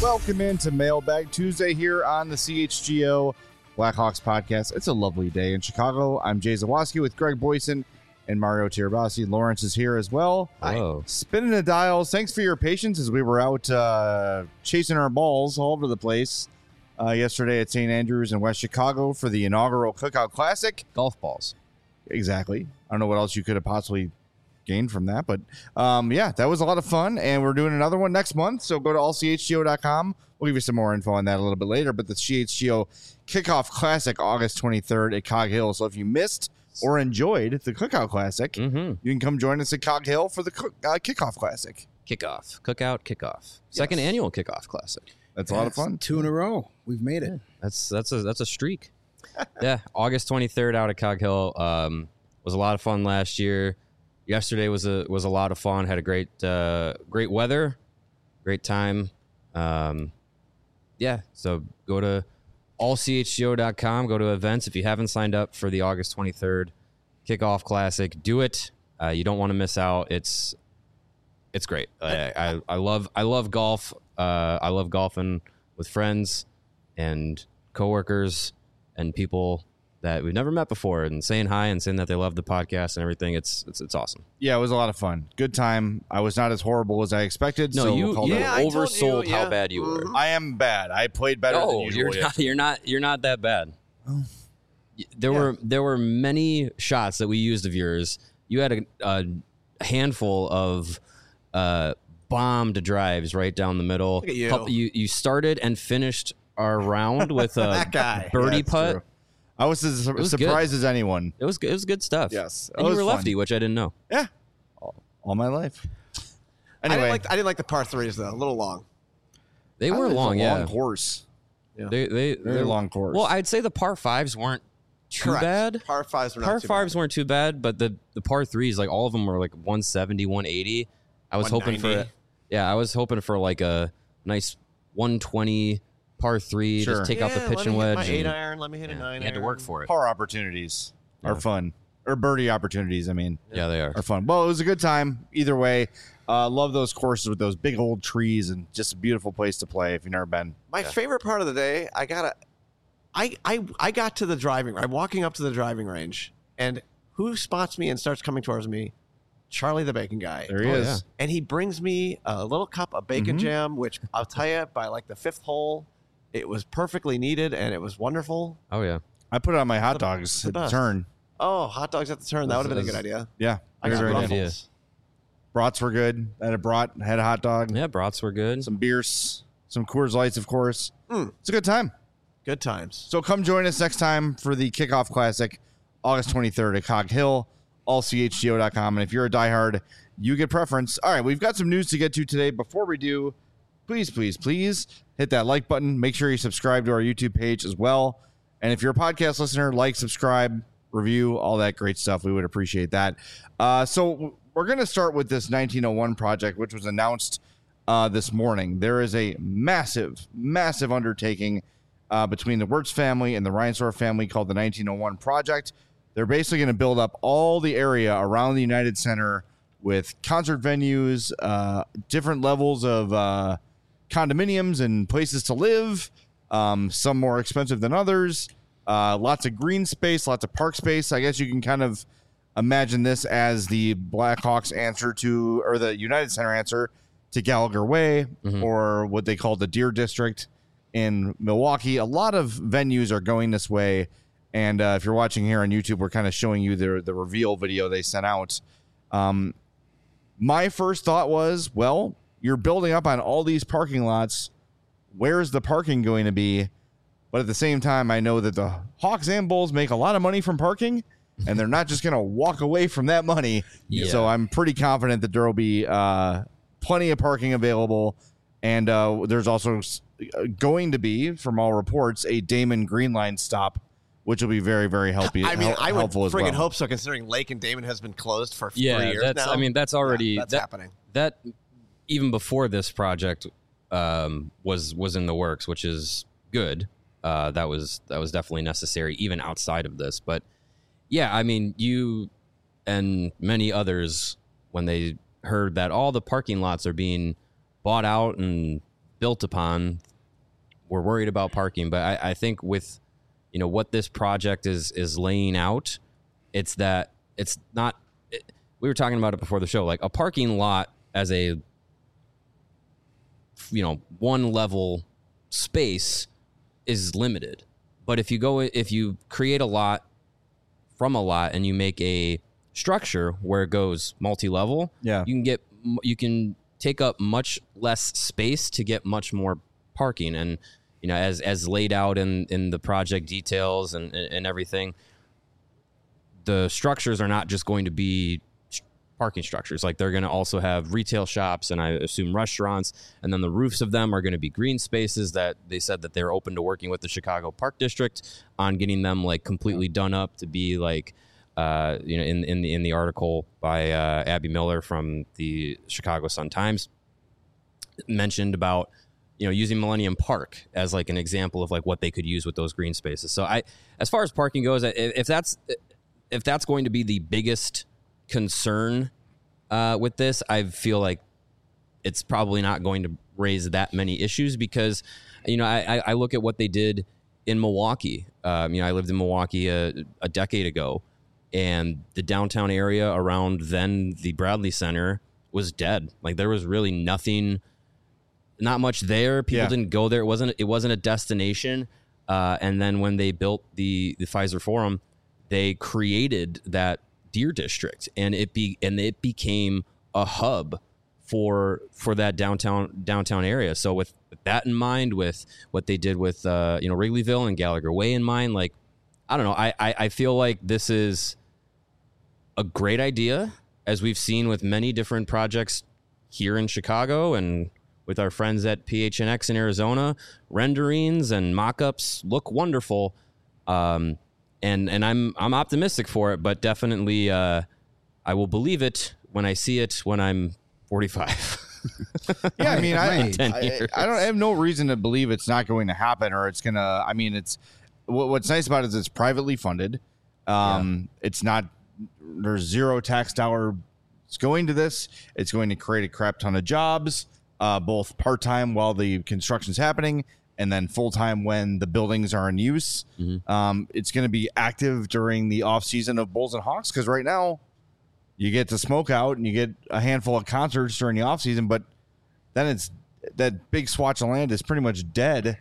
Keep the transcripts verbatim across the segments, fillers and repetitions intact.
Welcome into Mailbag Tuesday here on the C H G O Blackhawks podcast. It's a lovely day in Chicago. I'm Jay Zawaski with Greg Boyson and Mario Tirabassi. Lawrence is here as well. Hello. Spinning the dials. Thanks for your patience as we were out uh, chasing our balls all over the place uh, yesterday at Saint Andrews in West Chicago for the inaugural Cookout Classic. Golf balls. Exactly. I don't know what else you could have possibly gained from that, but um, yeah, that was a lot of fun, and we're doing another one next month, so go to all c h g o dot com. We'll give you some more info on that a little bit later, but the C H G O Kickoff Classic, August twenty-third at Cog Hill. So if you missed or enjoyed the Cookout Classic, Mm-hmm. you can come join us at Cog Hill for the cook, uh, Kickoff Classic. Kickoff. Cookout kickoff. Second Yes. annual kickoff classic. That's a lot of fun. Two in a row. We've made it. That's that's a that's a streak. Yeah. August twenty-third out at Cog Hill. Um, was a lot of fun last year. Yesterday was a was a lot of fun. Had a great uh, great weather, great time. Um, yeah, so go to all c h g o dot com. Go to events. If you haven't signed up for the August twenty-third Kickoff Classic, do it. Uh, you don't want to miss out. It's it's great. I, I I love I love golf. Uh, I love golfing with friends and coworkers and people that we've never met before, and saying hi and saying that they love the podcast and everything. It's it's it's awesome. Yeah, it was a lot of fun. Good time. I was not as horrible as I expected. No, so you, we'll call you that- Yeah, I told oversold you, how yeah. bad you were. I am bad. I played better than No, usual. you're yeah. not. You're not. You're not that bad. Oh. Y- There Yeah. were there were many shots that we used of yours. You had a, a handful of uh, bombed drives right down the middle. Look at you. Couple- you you started and finished our round with a That guy. birdie Yeah, it's putt. true. I was as was surprised as anyone. It was good. It was good stuff. Yes. and It you was were fun. lefty, which I didn't know. Yeah, all, all my life. I Anyway, didn't like I didn't like the par threes though. A little long. They were it's a long, yeah. long course. They they Very they're long course. Well, I'd say the par fives weren't too Correct. bad. Par fives were not Par too fives bad. weren't too bad, but the the par threes, like all of them were like one seventy, one eighty. I was hoping for, one ninety. yeah, I was hoping for like a nice one twenty par three. Sure. Just take out the Yeah, pitch let and me hit wedge. My eight and- iron. Let me hit a yeah, nine. you had to iron. work for it. par opportunities are Yeah. fun, or birdie opportunities. I mean, Yeah, they are. are fun. Well, it was a good time either way. Uh, love those courses with those big old trees and just a beautiful place to play if you've never been. My favorite part of the day, I gotta, I I I got to the driving. I'm walking up to the driving range, and who spots me and starts coming towards me? Charlie the bacon guy. There he Oh, is. yeah. And he brings me a little cup of bacon Mhm. jam, which I'll tell you, by like the fifth hole, it was perfectly needed and it was wonderful. Oh yeah. I put it on my hot The- dogs the at the best. turn. Oh, hot dogs at the turn. That would have been a good This idea. Yeah, I very, got very good nice. idea. ruffles. Brats were good. I had a brat, had a hot dog, Yeah, brats were good. some beers, some Coors Lights, of course. Mm. It's a good time. Good times. So come join us next time for the Kickoff Classic, August twenty-third at Cog Hill, all c h g o dot com. And if you're a diehard, you get preference. All right, we've got some news to get to today. Before we do, please, please, please hit that like button. Make sure you subscribe to our YouTube page as well. And if you're a podcast listener, like, subscribe, review, all that great stuff. We would appreciate that. Uh, so we're going to start with this nineteen oh one project, which was announced uh, this morning. There is a massive, massive undertaking uh, between the Wirtz family and the Reinsdorf family called the nineteen oh one Project. They're basically going to build up all the area around the United Center with concert venues, uh, different levels of uh, condominiums and places to live, um, some more expensive than others, uh, lots of green space, lots of park space. I guess you can kind of imagine this as the Blackhawks answer to, or the United Center answer to Gallagher Way, Mhm. or what they call the Deer District in Milwaukee. A lot of venues are going this way. And uh, if you're watching here on YouTube, we're kind of showing you the, the reveal video they sent out. Um, my first thought was, well, you're building up on all these parking lots. Where's the parking going to be? But at the same time, I know that the Hawks and Bulls make a lot of money from parking, and they're not just going to walk away from that money. Yeah. So I'm pretty confident that there will be uh, plenty of parking available. And uh, there's also going to be, from all reports, a Damon Green Line stop, which will be very, very helpful. I mean, hel- I would helpful as friggin' well. hope so, considering Lake and Damon has been closed for Yeah, three years that's. now. I mean, that's already Yeah, that's that, happening. That even before this project um, was was in the works, which is good. Uh, that was that was definitely necessary, even outside of this. But yeah, I mean, you and many others, when they heard that all the parking lots are being bought out and built upon, we're worried about parking. But I, I think with, you know, what this project is is laying out, it's that it's not. It, we were talking about it before the show. Like a parking lot as a, you know, one level space is limited. But if you go, if you create a lot from a lot and you make a structure where it goes multi-level, Yeah. you can get, you can take up much less space to get much more parking. And, you know, as, as laid out in, in the project details and, and everything, the structures are not just going to be parking structures. Like they're going to also have retail shops and I assume restaurants. And then the roofs of them are going to be green spaces that they said that they're open to working with the Chicago Park District on getting them like completely done up to be like, uh, you know, in, in the, in the article by uh, Abby Miller from the Chicago Sun-Times mentioned about, you know, using Millennium Park as like an example of like what they could use with those green spaces. So I, as far as parking goes, if, if that's, if that's going to be the biggest concern uh, with this, I feel like it's probably not going to raise that many issues because, you know, I, I look at what they did in Milwaukee. Um, you know, I lived in Milwaukee a, a decade ago, and the downtown area around then the Bradley Center was dead. Like there was really nothing, not much there. People Yeah. didn't go there. It wasn't. It wasn't a destination. Uh, and then when they built the the Pfizer Forum, they created that Deer District, and it be and it became a hub for for that downtown downtown area. So with, with that in mind, with what they did with uh, you know Wrigleyville and Gallagher Way in mind, like I don't know, I, I I feel like this is a great idea, as we've seen with many different projects here in Chicago and with our friends at P H N X in Arizona. Renderings and mock-ups look wonderful. Um, And and I'm I'm optimistic for it, but definitely uh, I will believe it when I see it when I'm forty-five. Yeah, I mean, I, ten I, years. I don't I have no reason to believe it's not going to happen or it's gonna. I mean, it's what, what's nice about it is it's privately funded. Um, it's not there's zero tax dollar. It's going to this. It's going to create a crap ton of jobs, uh, both part time while the construction's happening, and then full time when the buildings are in use. Mm-hmm. Um, it's going to be active during the off season of Bulls and Hawks because right now you get to smoke out and you get a handful of concerts during the off season, but then it's that big swatch of land is pretty much dead,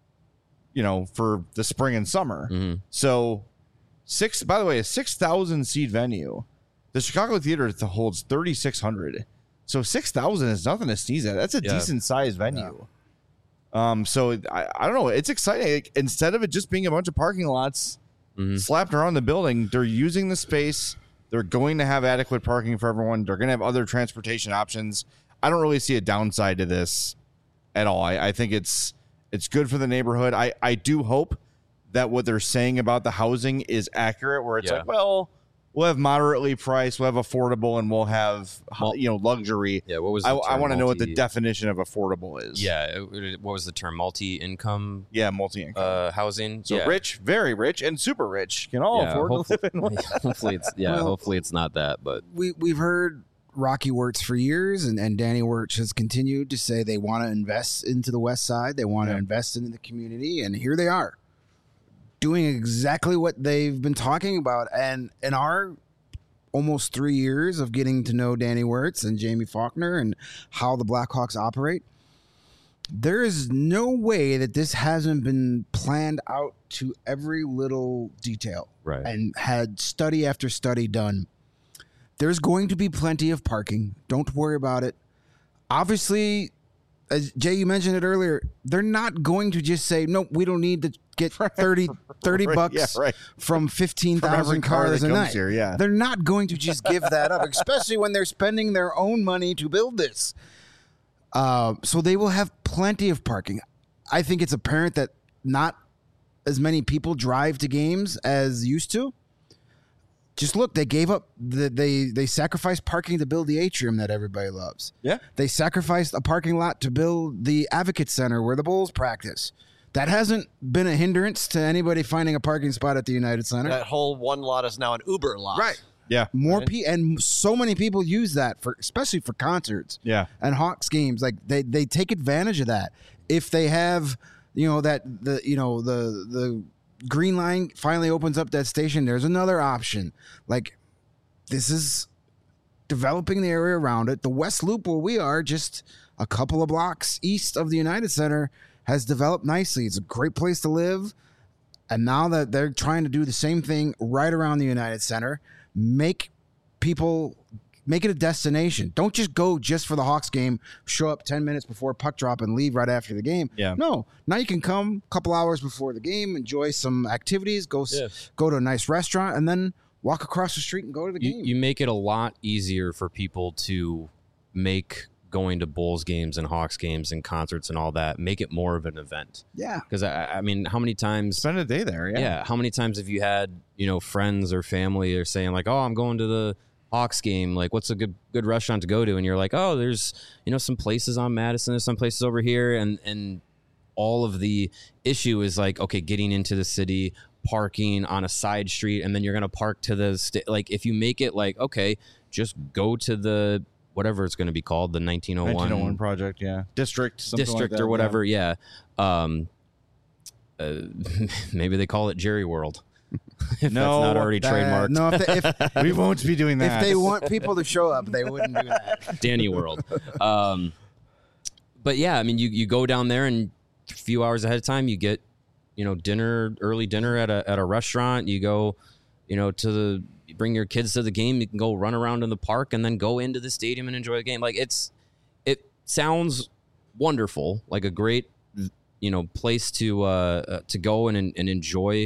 you know, for the spring and summer. Mm-hmm. So six, by the way, a six thousand seat venue, the Chicago Theater holds thirty-six hundred. So six thousand is nothing to sneeze at. That's a Yeah. decent sized venue. Um, so I, I don't know. It's exciting. Like, instead of it just being a bunch of parking lots Mhm. slapped around the building, they're using the space. They're going to have adequate parking for everyone. They're going to have other transportation options. I don't really see a downside to this at all. I, I think it's it's good for the neighborhood. I, I do hope that what they're saying about the housing is accurate, where it's Yeah. like, well, we'll have moderately priced, we'll have affordable, and we'll have Well- you know luxury. Yeah, what was I, the I term? want to know what the Multi- definition of affordable is. Yeah, it- what was the term? Multi-income Yeah, multi-income. uh, housing. so yeah. rich, very rich, and super rich can all Yeah, afford to hopefully, live in one. hopefully it's yeah, Well- hopefully it's not that, but we we've heard Rocky Wirtz for years, and, and Danny Wirtz has continued to say they want to invest into the West Side. They want to Yeah. invest into the community, and here they are doing exactly what they've been talking about. And in our almost three years of getting to know Danny Wirtz and Jamie Faulkner and how the Blackhawks operate, there is no way that this hasn't been planned out to every little detail right. and had study after study done. There's going to be plenty of parking. Don't worry about it. Obviously, as Jay, you mentioned it earlier, they're not going to just say, no, we don't need to get thirty, thirty Right, bucks yeah, right. from fifteen From every thousand car cars that a comes night. here, yeah. They're not going to just give that up, especially when they're spending their own money to build this. Uh, so they will have plenty of parking. I think it's apparent that not as many people drive to games as used to. Just look, they gave up, the, they they sacrificed parking to build the atrium that everybody loves. Yeah. They sacrificed a parking lot to build the Advocate Center where the Bulls practice. That hasn't been a hindrance to anybody finding a parking spot at the United Center. That whole one lot is now an Uber lot. Right. Yeah. More Right. pe- and so many people use that for, especially for concerts Yeah. and Hawks games. Like they they take advantage of that. if they have, you know, that the you know the the Green Line finally opens up that station, there's another option. Like, this is developing the area around it. The West Loop, where we are, just a couple of blocks east of the United Center, has developed nicely. It's a great place to live. And now that they're trying to do the same thing right around the United Center, make people, make it a destination. Don't just go just for the Hawks game, show up ten minutes before puck drop and leave right after the game. Yeah. No, now you can come a couple hours before the game, enjoy some activities, go Yeah. go to a nice restaurant, and then walk across the street and go to the You, game. you make it a lot easier for people to make going to Bulls games and Hawks games and concerts and all that, make it more of an event. yeah. Because I, I mean, how many times? Spend a day there. Yeah. Yeah. How many times have you had, you know, friends or family are saying like, "Oh, I'm going to the Hawks game. Like, what's a good good restaurant to go to?" And you're like, "Oh, there's, you know, some places on Madison, there's some places over here," and and all of the issue is like, okay, getting into the city, parking on a side street, and then you're gonna park to the sta- like. If you make it like, okay, just go to the whatever it's going to be called, the nineteen oh one nineteen oh one project. Yeah. District. something like district that, or whatever. Yeah. Um, uh, maybe they call it Jerry World. if No, that's not already Uh, trademarked. no, if they, if, Yeah. We won't be doing that. if they want people to show up, they wouldn't do that. Danny World. Um, but yeah, I mean, you, you go down there and a few hours ahead of time, you get, you know, dinner, early dinner at a, at a restaurant. You go, you know, to the, you bring your kids to the game. You can go run around in the park and then go into the stadium and enjoy the game. Like, it's, it sounds wonderful, like a great, you know, place to, uh, uh to go and, and enjoy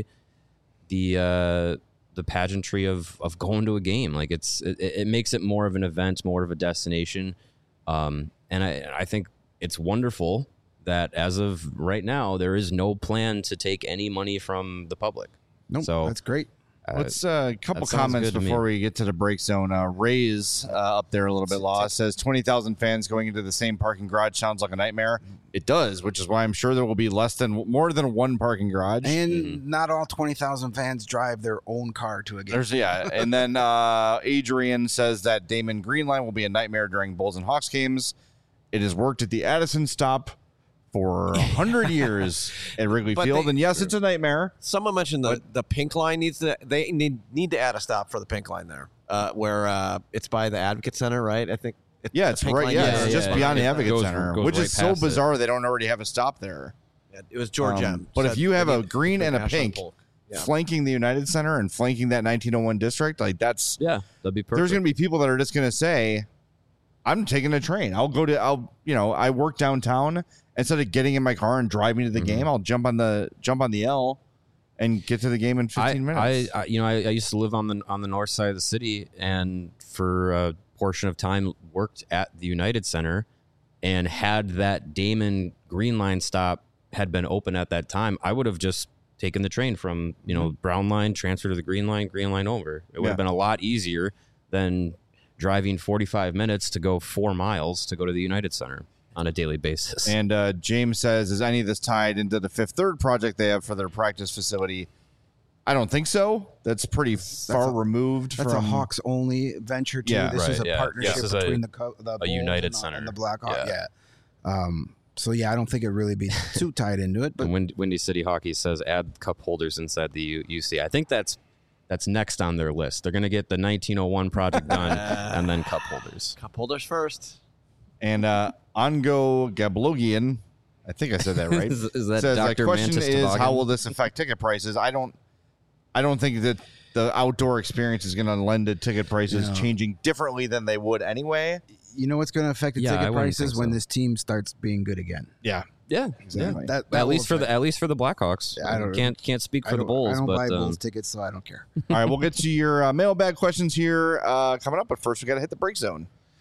the, uh, the pageantry of, of going to a game. Like, it's, it, it makes it more of an event, more of a destination. Um, and I, I think it's wonderful that as of right now, there is no plan to take any money from the public. Nope, So, that's great. Uh, Let's uh, a couple that sounds comments good to me. before we get to the break zone. Uh, Ray's uh, up there a little bit. Law says twenty thousand fans going into the same parking garage sounds like a nightmare. It does, which is why I'm sure there will be less than more than one parking garage. And Mm-hmm. not all twenty thousand fans drive their own car to a game. There's yeah, and then uh, Adrian says that Damon Green Line will be a nightmare during Bulls and Hawks games. It has worked at the Addison stop for a hundred years at Wrigley But Field, they- and yes, it's a nightmare. Someone mentioned the, the pink line needs to. They need need to add a stop for the pink line there, uh, where uh, it's by the Advocate Center, right? I think. It's Yeah, the it's pink right. line Yeah, there. it's just yeah, beyond yeah. the Advocate Goes- Center, goes which right is so past it. bizarre. They don't already have a stop there. Yeah, it was George Um, M. but if said you have they a need green the and a national pink polk. Yeah. flanking the United Center and flanking that nineteen oh one district, like that's yeah, that'd be perfect. there's going to be people that are just going to say, I'm taking a train. I'll go to, I'll, you know, I work downtown. Instead of getting in my car and driving to the Mhm. game, I'll jump on the, jump on the L and get to the game in I, fifteen minutes. I, I, you know, I, I used to live on the on the north side of the city, and for a portion of time worked at the United Center, and had that Damon Green Line stop had been open at that time, I would have just taken the train from you know Brown Line, transfer to the Green Line, Green Line over. It would Yeah. have been a lot easier than driving forty-five minutes to go four miles to go to the United Center on a daily basis. And uh, James says, is any of this tied into the Fifth Third project they have for their practice facility? I don't think so. That's pretty far a- removed That's from a Hawks only venture too. Yeah. this is Right, a yeah. partnership This is a- between the co- the Bulls United and, the- Center. and the Blackhawks. Yeah. Yeah. Um. So yeah, I don't think it really be too tied into it, but And Wind, Windy City Hockey says add cup holders inside the U- UC. I think that's that's next on their list. They're going to get the nineteen oh one project done and then cup holders. Cup holders first. And uh, Ongo Gablogian, I think I said that right. Is- is that says, Doctor The question Mantis is, Toboggan? how will this affect ticket prices? I don't, I don't think that the outdoor experience is going to lend to ticket prices No. changing differently than they would anyway. you know what's going to affect the Yeah, I ticket wouldn't prices think when so. this team starts being good again. Yeah, Yeah, exactly. That, yeah. that At will least for the affect- at least for the Blackhawks. Yeah, I don't- can't can't speak I for the don't- Bulls, I don't but buy um, Bulls tickets, so I don't care. All right, we'll get to your uh, mailbag questions here uh, coming up, but first we got to hit the break zone.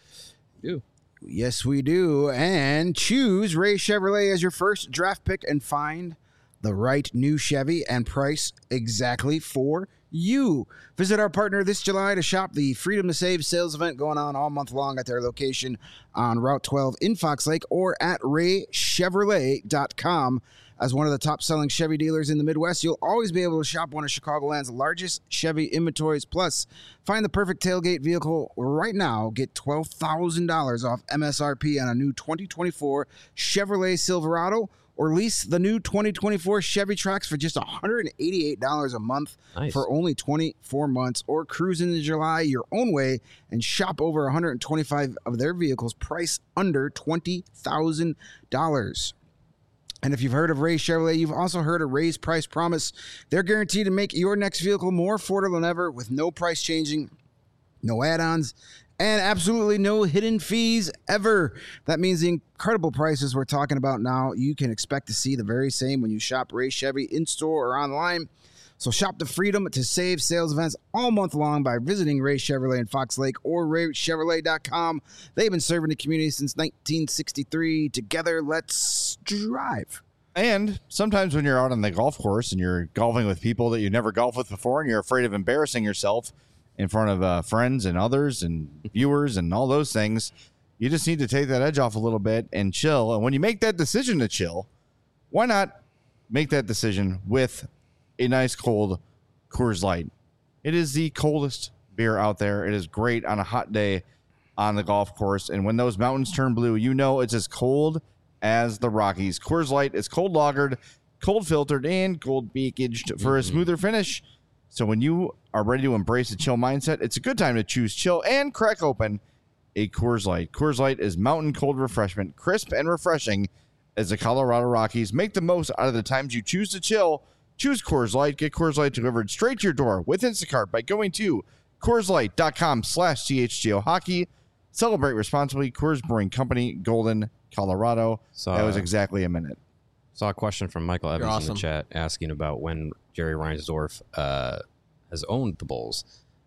ew. Yes, we do. And choose Ray Chevrolet as your first draft pick and find the right new Chevy and price exactly for you. Visit our partner this July to shop the Freedom to Save sales event going on all month long at their location on Route twelve in Fox Lake or at ray chevrolet dot com. As one of the top-selling Chevy dealers in the Midwest, you'll always be able to shop one of Chicagoland's largest Chevy inventories. Plus, find the perfect tailgate vehicle right now. Get twelve thousand dollars off M S R P on a new twenty twenty-four Chevrolet Silverado, or lease the new twenty twenty-four Chevy Trax for just one hundred eighty-eight dollars a month Nice. for only twenty-four months, or cruise into July your own way and shop over one hundred twenty-five of their vehicles priced under twenty thousand dollars. And if you've heard of Ray Chevrolet, you've also heard of Ray's Price Promise. They're guaranteed to make your next vehicle more affordable than ever with no price changing, no add-ons, and absolutely no hidden fees ever. That means the incredible prices we're talking about now, you can expect to see the very same when you shop Ray Chevy in-store or online. So shop the freedom to save sales events all month long by visiting Ray Chevrolet in Fox Lake or ray chevrolet dot com. They've been serving the community since nineteen sixty-three. Together, let's drive. And sometimes when you're out on the golf course and you're golfing with people that you never golfed with before and you're afraid of embarrassing yourself in front of uh, friends and others and viewers and all those things, you just need to take that edge off a little bit and chill. And when you make that decision to chill, why not make that decision with a nice cold Coors Light? It is the coldest beer out there. It is great on a hot day on the golf course. And when those mountains turn blue, you know it's as cold as the Rockies. Coors Light is cold lagered, cold filtered, and cold packaged for a smoother finish. So when you are ready to embrace a chill mindset, it's a good time to choose chill and crack open a Coors Light. Coors Light is mountain cold refreshment, crisp and refreshing as the Colorado Rockies. Make the most out of the times you choose to chill. Choose Coors Light. Get Coors Light delivered straight to your door with Instacart by going to Coors Light dot com slash C H G O hockey. Celebrate responsibly. Coors Brewing Company, Golden, Colorado. So, that was uh, exactly a minute. Saw a question from Michael Evans awesome. in the chat asking about when Jerry Reinsdorf uh, has owned the Bulls.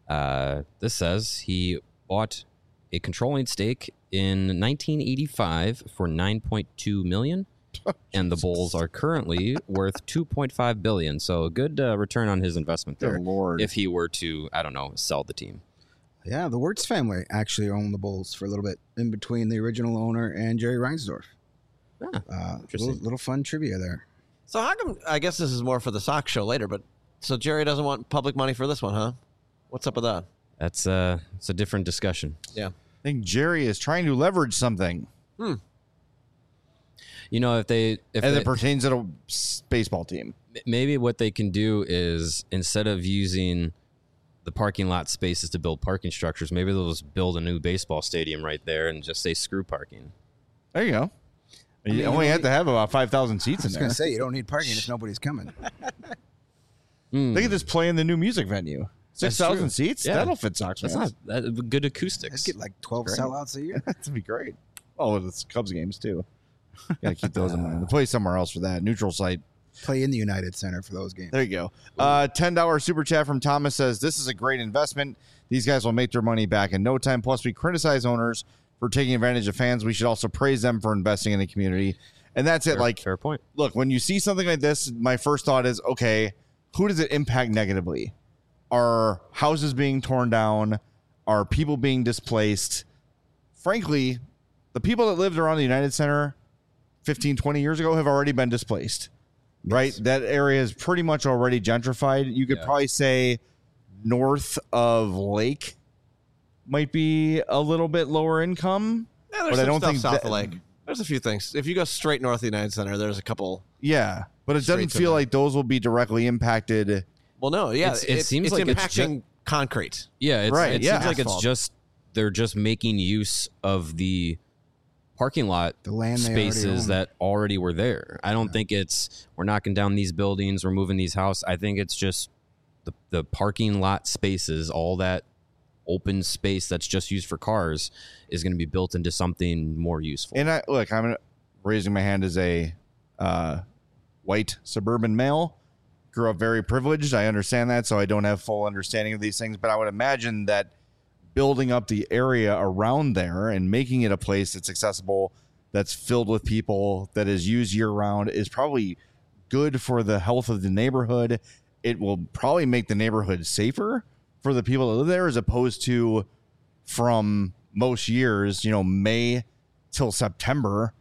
Uh, this says he bought a controlling stake in nineteen eighty-five for nine point two million dollars, and the Bulls are currently worth two point five billion dollars. So a good uh, return on his investment there. Good Lord. If he were to, I don't know, sell the team. Yeah, the Wirtz family actually owned the Bulls for a little bit in between the original owner and Jerry Reinsdorf. Yeah, Uh, Interesting. little, little fun trivia there. So how come? I guess this is more for the Sox show later, but so Jerry doesn't want public money for this one, huh? What's up with that? that's uh, it's a different discussion. Yeah. I think Jerry is trying to leverage something You know, if they if as they, it pertains to a s- baseball team. maybe what they can do is instead of using the parking lot spaces to build parking structures, maybe they'll just build a new baseball stadium right there and just say screw parking. There you go. You mean, only you have to have about five thousand seats I in was there. going to say, you don't need parking if nobody's coming. Hmm. They could just play in the new music venue. That's six thousand true. seats? Yeah. That'll fit Sox That's fans. not that, good Let's acoustics. get like twelve Great. sellouts a year. That'd be great. Oh, it's Cubs games, too. Got to keep those in mind. They play somewhere else for that. Neutral site. Play in the United Center for those games. There you go. Uh, ten dollars super chat from Thomas says, this is a great investment. These guys will make their money back in no time. Plus, we criticize owners for taking advantage of fans. We should also praise them for investing in the community. And that's it. fair, Like, fair point. look, when you see something like this, my first thought is, okay, who does it impact negatively? Are houses being torn down? Are people being displaced? Frankly, the people that lived around the United Center fifteen, twenty years ago have already been displaced, right? That area is pretty much already gentrified. You could Yeah. probably say north of Lake might be a little bit lower income. Yeah, there's But some I don't stuff think south that- of Lake. There's a few things. If you go straight north of the United Center, there's a couple. Yeah, but it Straight doesn't to feel the- like those will be directly impacted. Well, no, yeah, It's- it seems it's like it's impacting concrete. Yeah, it's, Right, it yeah. seems like Asphalt. it's just they're just making use of the parking lot The land they already spaces own. that already were there. I don't think it's we're knocking down these buildings, we're moving these houses. I think it's just the the parking lot spaces, all that open space that's just used for cars is going to be built into something more useful. And I look, I'm raising my hand as a uh, white suburban male. Grew up very privileged. I understand that, so I don't have full understanding of these things. But I would imagine that building up the area around there and making it a place that's accessible, that's filled with people, that is used year round, is probably good for the health of the neighborhood. It will probably make the neighborhood safer for the people that live there, as opposed to from most years, you know, May till September,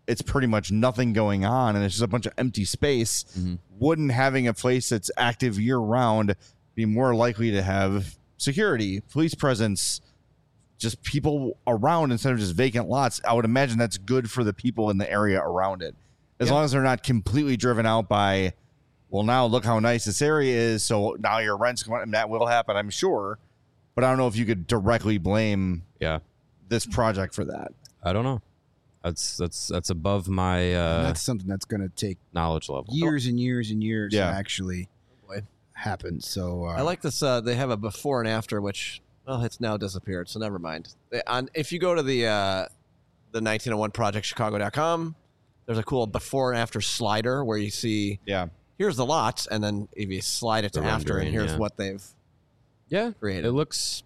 it's pretty much nothing going on and it's just a bunch of empty space, mm-hmm. wouldn't having a place that's active year round be more likely to have security, police presence, just people around instead of just vacant lots? I would imagine that's good for the people in the area around it. As yeah. long as they're not completely driven out by, well, now look how nice this area is, so now your rent's going, and that will happen, I'm sure. But I don't know if you could directly blame yeah. this project for that. I don't know. That's that's that's above my uh, that's something that's going to take knowledge level. Years and years and years yeah. to actually happen. So uh, I like this. Uh, they have a before and after, which well, it's now disappeared. So never mind. They, on if you go to the uh, the nineteen oh one project chicago dot com, there's a cool before and after slider where you see yeah here's the lots, and then if you slide it to The after, and rendering, here's yeah. what they've Yeah, created. It looks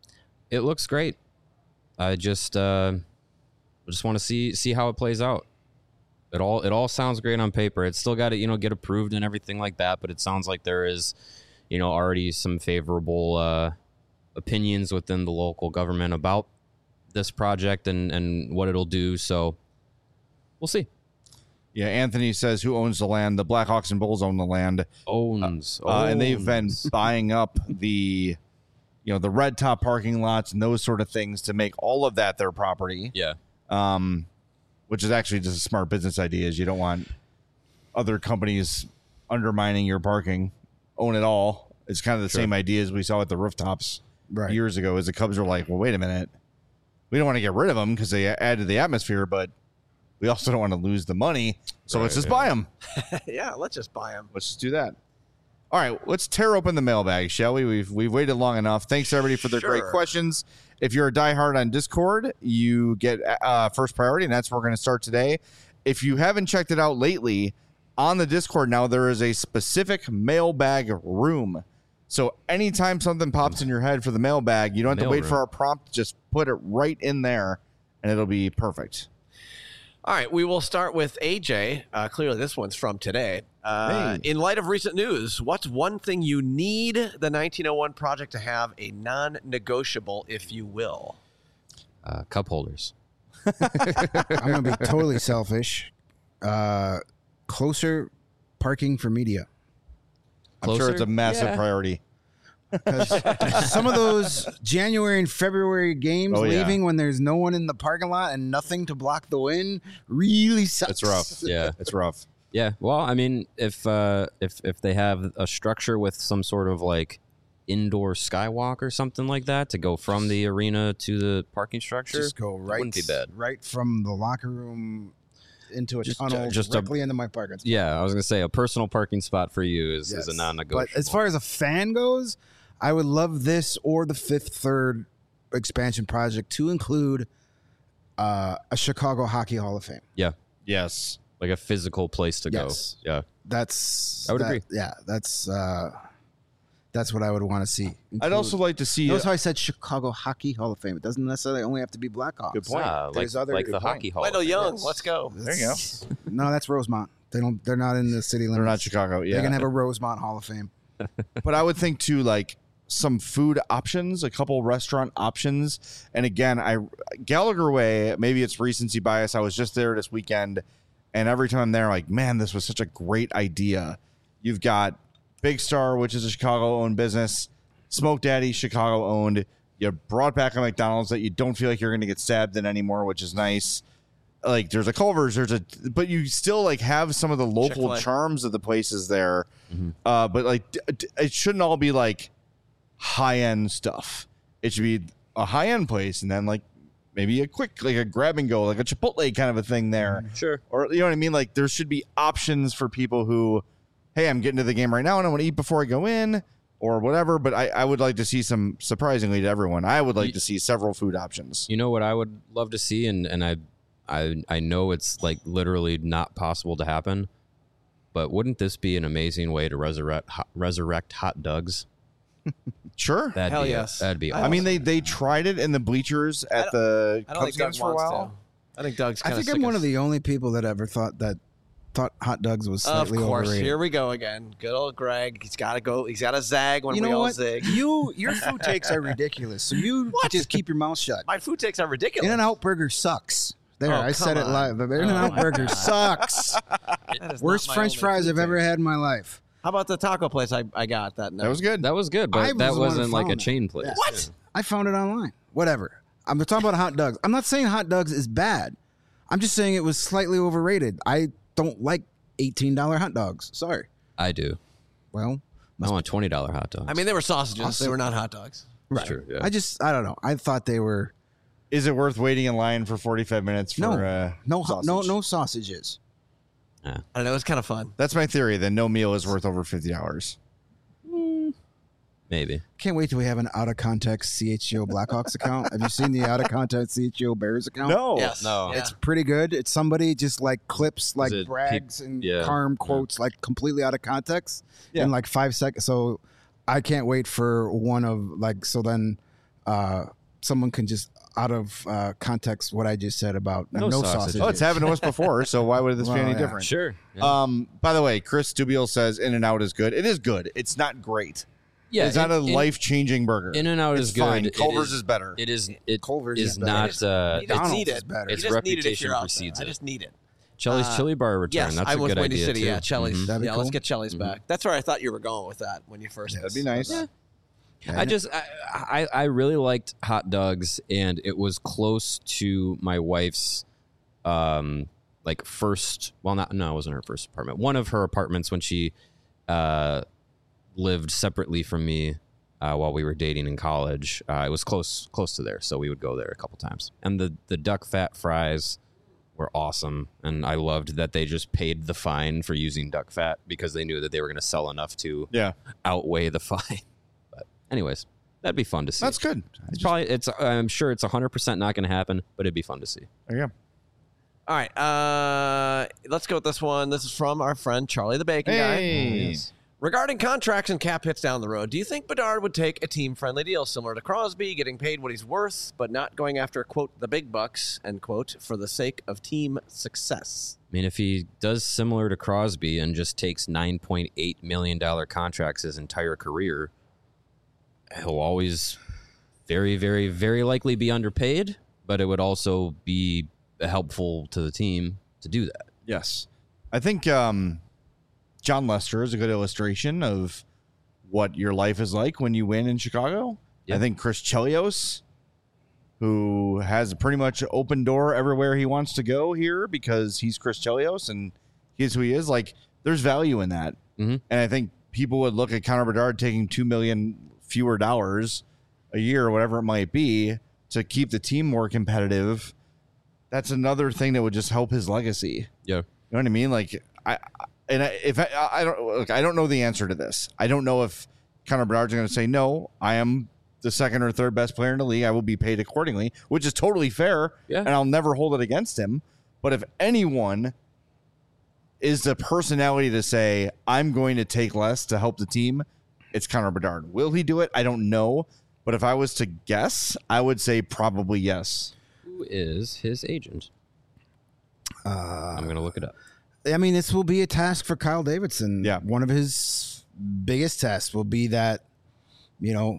it looks great. I just uh, just want to see see how it plays out. It all it all sounds great on paper. It's still got to you know get approved and everything like that, but it sounds like there is you know already some favorable uh, opinions within the local government about this project and and what it'll do. So we'll see. Yeah, Anthony says, who owns the land? The Blackhawks and Bulls own the land. Owns, Uh, and they've been owns. buying up the, you know, the red top parking lots and those sort of things to make all of that their property. Yeah. Um, which is actually just a smart business idea. Is you don't want other companies undermining your parking. Own it all. It's kind of the Sure. same idea as we saw at the rooftops right. years ago. As the Cubs were like, well, wait a minute, we don't want to get rid of them because they add to the atmosphere, but we also don't want to lose the money. So Right, let's just yeah. buy them. yeah, let's just buy them. Let's just do that. All right, let's tear open the mailbag, shall we? We've we've waited long enough. Thanks everybody for their Sure. great questions. If you're a diehard on Discord, you get uh, first priority, and that's where we're going to start today. If you haven't checked it out lately, on the Discord now there is a specific mailbag room. So anytime something pops in your head for the mailbag, you don't have Mail to wait room. for our prompt. Just put it right in there, and it'll be perfect. All right, we will start with A J. Uh, clearly, this one's from today. Uh, Hey. In light of recent news, what's one thing you need the nineteen oh one project to have, a non-negotiable, if you will? Uh, cup holders. I'm going to be totally selfish. Uh, closer parking for media. I'm sure Closer? it's a massive Yeah. priority. Because some of those January and February games Oh, yeah. leaving when there's no one in the parking lot and nothing to block the wind really sucks. It's rough. Yeah. It's rough. Yeah, well, I mean, if uh, if if they have a structure with some sort of like indoor skywalk or something like that to go from the arena to the parking structure, Just go right, wouldn't be bad. right from the locker room into a Just- tunnel, just a- directly into my parking spot. yeah, I was gonna say a personal parking spot for you is, is a Yes. non-negotiable. But as far as a fan goes, I would love this or the fifth third expansion project to include uh, a Chicago Hockey Hall of Fame. yeah, Yes. like a physical place to Yes. go. Yeah, That's I would that- agree. Yeah, that's uh, that's what I would want to see. I'd Include- also like to see. Notice how I said Chicago Hockey Hall of Fame. It doesn't necessarily only have to be Blackhawks. Good point. Ah, like, There's other- like good the point. hockey hall. Wendell of Fame. Young, Yes. let's go. There you go. No, that's Rosemont. They don't. They're not in the city limits. They're not Chicago. They Yeah. can have a Rosemont Hall of Fame. But I would think too, like some food options, a couple restaurant options. And again, I Gallagher Way, maybe it's recency bias. I was just there this weekend, and every time I'm there, like, man, this was such a great idea. You've got Big Star, which is a Chicago-owned business, Smoke Daddy, Chicago-owned. You brought back a McDonald's that you don't feel like you're going to get stabbed in anymore, which is nice. Like there's a Culver's, there's a, but you still like have some of the local Chick-fil-A. charms of the places there. Uh, but like, d- d- it shouldn't all be like high end stuff. It should be a high end place, and then like maybe a quick, like a grab and go, like a Chipotle kind of a thing there, Sure. or you know what I mean. Like there should be options for people who, hey, I'm getting to the game right now, and I want to eat before I go in, or whatever. But I, I would like to see some, surprisingly to everyone, I would like You- to see several food options. You know what I would love to see, and and I, I I know it's like literally not possible to happen, but wouldn't this be an amazing way to resurrect hot, resurrect hot dogs? Sure. That'd Hell be yes. that'd be. I Awesome. I mean, they they tried it in the bleachers at the I don't Cubs think Doug games for a wants while. to. I think Doug's I kind think I'm one of the only people that ever thought that thought hot dogs was Of slightly course, overrated. here we go again. Good old Greg. He's got to go. He's got to zag when you we know all what? zig. You your food takes are ridiculous. So you What? just keep your mouth shut. My food takes are ridiculous. In and Out Burger sucks. There, Oh, I said come it live. The on. In-N-Out Oh, my Burger God. sucks. That is Worst not my French only fries food I've ever taste. had in my life. How about the taco place I, I got that night? That was good. That was good, I but was that the one who wasn't like a found it. chain place. Yeah. What? I found it online. Whatever. I'm talking about hot dogs. I'm not saying hot dogs is bad. I'm just saying it was slightly overrated. I don't like eighteen dollars hot dogs. Sorry. I do. Well, I want twenty dollar hot dogs. I mean, they were sausages. Also- They were not hot dogs. That's true. Yeah. I just, I don't know. I thought they were Is it worth waiting in line for forty-five minutes for no, uh, no, ho- no, sausage? no sausages. I don't know. It was kind of fun. That's my theory. Then no meal is worth over fifty dollars. Maybe. Can't wait till we have an out of context C H G O Blackhawks account. Have you seen the out of context C H G O Bears account? No. Yes. No. Yeah. It's pretty good. It's somebody just like clips like it brags and yeah. Carm quotes like completely out of context Yeah. in like five seconds. So I can't wait for one of like so then uh someone can just out of uh context what I just said about No no, sausages. sausages. Oh, it's happened to us before. So why would this Well, be any yeah. different? Sure. Um. By the way, Chris Dubiel says In-N-Out is good. It is good. It's not great. Yeah. it's not a life-changing burger. In-N-Out It's is good. fine. It Culver's is- is better. It is. It Culver's is is better. not. It is- Uh, You just McDonald's need is it. better. You Its just need it if reputation you're out precedes there. I it. just need it. Chili's Uh, Chili Bar return. Yes, That's I a was good Windy idea City. too. Yeah, Chili's. Mhm. That'd be Yeah, let's cool. get Chili's Mhm. back. That's where I thought you were going with that when you first. That'd be nice. Yeah. I just I, I I really liked hot dogs, and it was close to my wife's um like first. Well, not no, it wasn't her first apartment. One of her apartments when she uh lived separately from me uh, while we were dating in college. Uh, it was close close to there, so we would go there a couple times. And the the duck fat fries were awesome, and I loved that they just paid the fine for using duck fat because they knew that they were going to sell enough to Yeah, outweigh the fine. But anyways, that'd be fun to see. that's good. It's probably it's. I'm sure it's one hundred percent not going to happen, but it'd be fun to see. There you go. All right. Uh, let's go with this one. This is from our friend Charlie the Bacon Guy. Hey. Regarding contracts and cap hits down the road, do you think Bedard would take a team-friendly deal similar to Crosby, getting paid what he's worth, but not going after, quote, the big bucks, end quote, for the sake of team success? I mean, if he does similar to Crosby and just takes nine point eight million dollar contracts his entire career, he'll always very, very, very likely be underpaid. But it would also be helpful to the team to do that. Yes, I think um, John Lester is a good illustration of what your life is like when you win in Chicago. Yeah. I think Chris Chelios, who has a pretty much open door everywhere he wants to go here because he's Chris Chelios and he's who he is. Like, there's value in that, Mhm. and I think people would look at Connor Bedard taking two million fewer dollars a year or whatever it might be to keep the team more competitive. That's another thing that would just help his legacy. Yeah. You know what I mean? Like, I, I and I, if I, I don't look, I don't know the answer to this. I don't know if Connor Bedard's going to say no. I am the second or third best player in the league. I will be paid accordingly, which is totally fair, Yeah. and I'll never hold it against him. But if anyone is the personality to say I'm going to take less to help the team, it's Connor Bedard. Will he do it? I don't know. But if I was to guess, I would say probably yes. Who is his agent? Uh, I'm going to look it up. I mean, this will be a task for Kyle Davidson. Yeah. One of his biggest tests will be that, you know,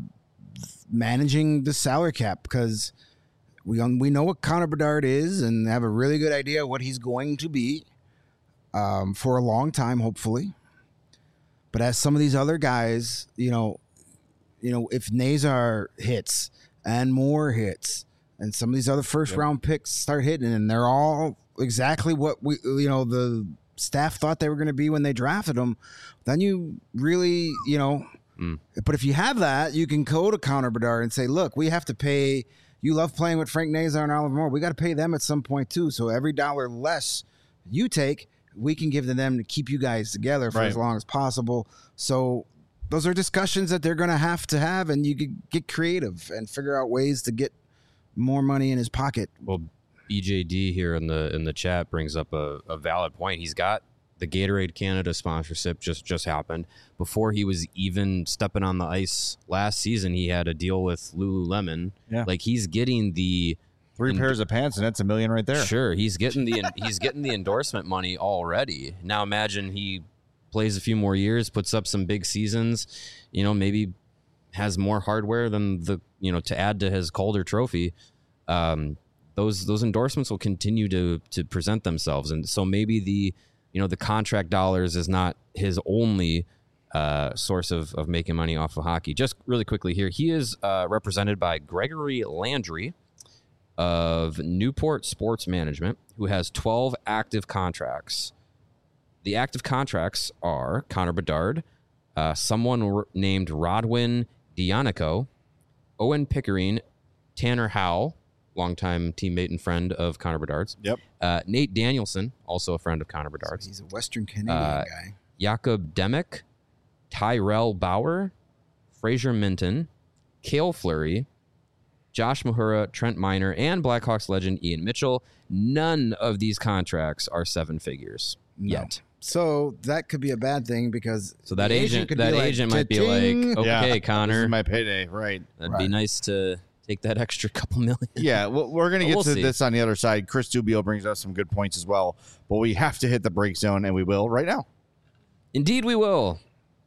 managing the salary cap because we we know what Connor Bedard is and have a really good idea what he's going to be um, for a long time, hopefully. But as some of these other guys, you know, you know, if Nazar hits and more hits, and some of these other first Yep. round picks start hitting, and they're all exactly what we, you know, the staff thought they were going to be when they drafted them, then you really, you know, Mm. but if you have that, you can go to Connor Bedard and say, look, we have to pay, you love playing with Frank Nazar and Oliver Moore. We got to pay them at some point too. So every dollar less you take, we can give to them to keep you guys together for Right. as long as possible. So those are discussions that they're going to have to have, and you could get creative and figure out ways to get more money in his pocket. Well, B J D here in the in the chat brings up a, a valid point. He's got the Gatorade Canada sponsorship just just happened. Before he was even stepping on the ice last season, he had a deal with Lululemon. Yeah. Like he's getting the Three And- pairs of pants, and that's a million right there. Sure, he's getting the he's getting the endorsement money already. Now imagine he plays a few more years, puts up some big seasons, you know, maybe has more hardware than the, you know, to add to his Calder trophy. Um, those those endorsements will continue to to present themselves, and so maybe the you know the contract dollars is not his only uh, source of of making money off of hockey. Just really quickly here, he is uh, represented by Gregory Landry of Newport Sports Management, who has twelve active contracts. The active contracts are Connor Bedard, uh, someone r- named Rodwin Dionico, Owen Pickering, Tanner Howe, longtime teammate and friend of Connor Bedard's. Yep. Uh, Nate Danielson, also a friend of Connor So Bedard's. he's a Western Canadian Uh, guy. Jakob Demick, Tyrell Bauer, Fraser Minton, Cale Fleury, Josh Mahura, Trent Miner, and Blackhawks legend Ian Mitchell. None of these contracts are seven figures No. yet. So that could be a bad thing because So that the agent, could that be like, agent might be "Ta-ting." like, okay, Yeah, This Connor, is my payday, right? that'd Right. be nice to take that extra couple million. Yeah, well, we're going to get We'll to see. this on the other side. Chris Dubio brings us some good points as well, but we have to hit the break zone, and we will right now. Indeed, we will.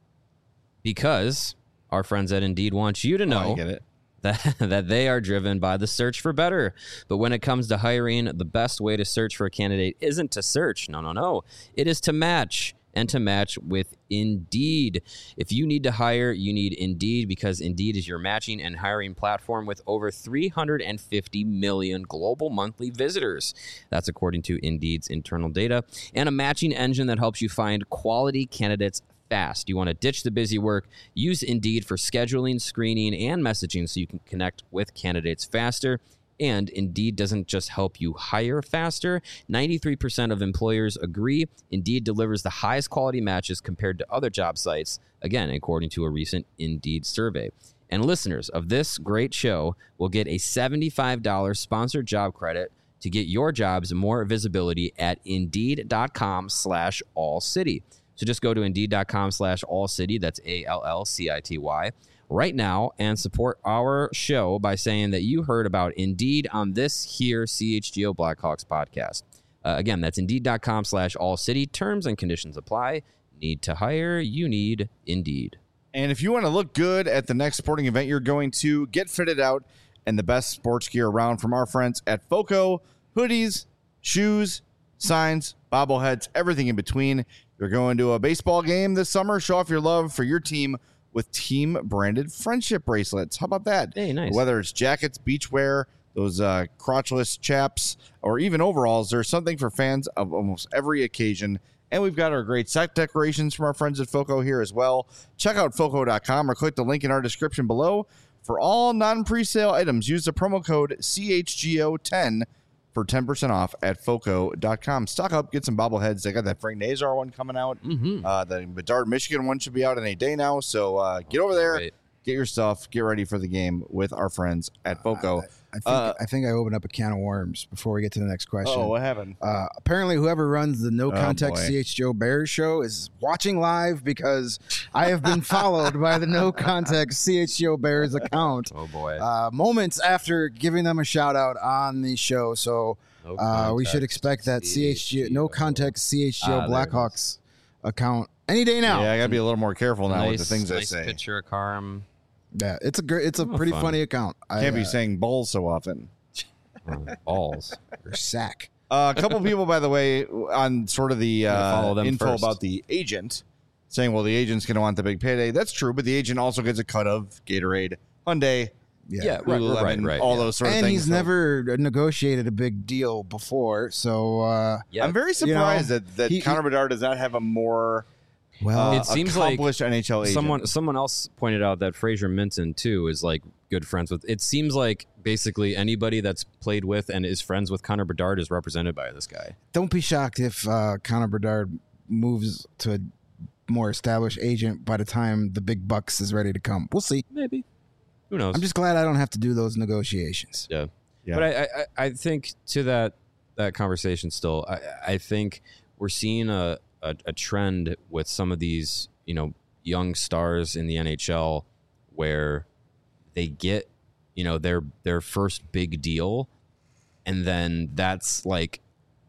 Because our friends at Indeed want you to Oh, know I get it. that, that they are driven by the search for better. But when it comes to hiring, the best way to search for a candidate isn't to search. No, no, no. It is to match, and to match with Indeed. If you need to hire, you need Indeed, because Indeed is your matching and hiring platform with over three hundred fifty million global monthly visitors. That's according to Indeed's internal data, and a matching engine that helps you find quality candidates fast. You want to ditch the busy work? Use Indeed for scheduling, screening, and messaging so you can connect with candidates faster. And Indeed doesn't just help you hire faster. ninety-three percent of employers agree Indeed delivers the highest quality matches compared to other job sites, again, according to a recent Indeed survey. And listeners of this great show will get a seventy-five dollars sponsored job credit to get your jobs more visibility at Indeed.com slash All City. So just go to Indeed.com slash All City. That's A L L C I T Y. Right now and support our show by saying that you heard about Indeed on this here C H G O Blackhawks podcast. Uh, again, that's Indeed.com slash All City. Terms and conditions apply. Need to hire? You need Indeed. And if you want to look good at the next sporting event you're going to, get fitted out and the best sports gear around from our friends at FOCO. Hoodies, shoes, signs, bobbleheads, everything in between. You're going to a baseball game this summer. Show off your love for your team with team-branded friendship bracelets. How about that? Hey, nice. Whether it's jackets, beachwear, those uh, crotchless chaps, or even overalls, there's something for fans of almost every occasion. And we've got our great set decorations from our friends at FOCO here as well. Check out foco dot com or click the link in our description below. For all non-presale items, use the promo code C H G O ten for ten percent off at foco dot com. Stock up, get some bobbleheads. They got that Frank Nazar one coming out. Mm-hmm. Uh, the Bedard, Michigan one should be out in a day now. So uh, get over there, Right. get your stuff, get ready for the game with our friends at FOCO. I think Uh, I think I opened up a can of worms before we get to the next question. Oh, what happened? Uh, apparently, whoever runs the No Oh, Context boy. C H G O Bears show is watching live because I have been followed by the No Context C H G O Bears account Oh, boy. uh, moments after giving them a shout out on the show. So No uh, we should context, expect that C H G O, No Context C H G O Ah, there it Blackhawks account any day now. Yeah, I got to be a little more careful now with the things nice I say. picture of Carm. Yeah, it's a great, it's a Oh, pretty fun. funny account. I, Can't be uh, saying balls so often. Oh, balls. or sack. Uh, a couple people, by the way, on sort of the Gotta uh, follow them info first. about the agent, saying, well, the agent's going to want the big payday. That's true, but the agent also gets a cut of Gatorade, Hyundai, Yeah. Yeah, right, Lululemon, right, right. all yeah. those sort of And things. he's So never negotiated a big deal before, so uh, Yeah. I'm very surprised that, that he- Connor Bedard does not have a more well, uh, It seems like accomplished N H L agent. Someone someone else pointed out that Fraser Minton too is like good friends with. It seems like basically anybody that's played with and is friends with Connor Bedard is represented by this guy. don't be shocked if uh, Connor Bedard moves to a more established agent by the time the big bucks is ready to come. We'll see. Maybe. Who knows? I'm just glad I don't have to do those negotiations. yeah. Yeah. But I, I I think to that that conversation still, I I think we're seeing a, a a trend with some of these you know young stars in the N H L where they get you know their their first big deal, and then that's like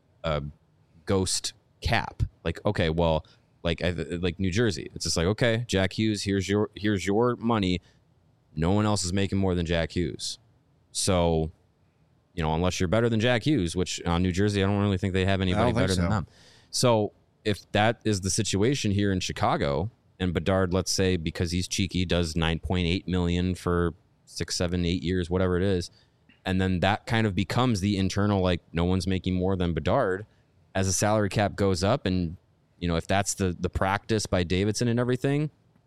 a ghost cap. Like okay, well, like I, like New Jersey, it's just like okay, Jack Hughes, here's your here's your money. No one else is making more than Jack Hughes, so you know, unless you're better than Jack Hughes, which on New Jersey, I don't really think they have anybody think better so. than them. So if that is the situation here in Chicago, and Bedard, let's say, because he's cheeky, does nine point eight million for six, seven, eight years, whatever it is, and then that kind of becomes the internal, like, no one's making more than Bedard as the salary cap goes up. And, you know, if that's the the practice by Davidson and everything,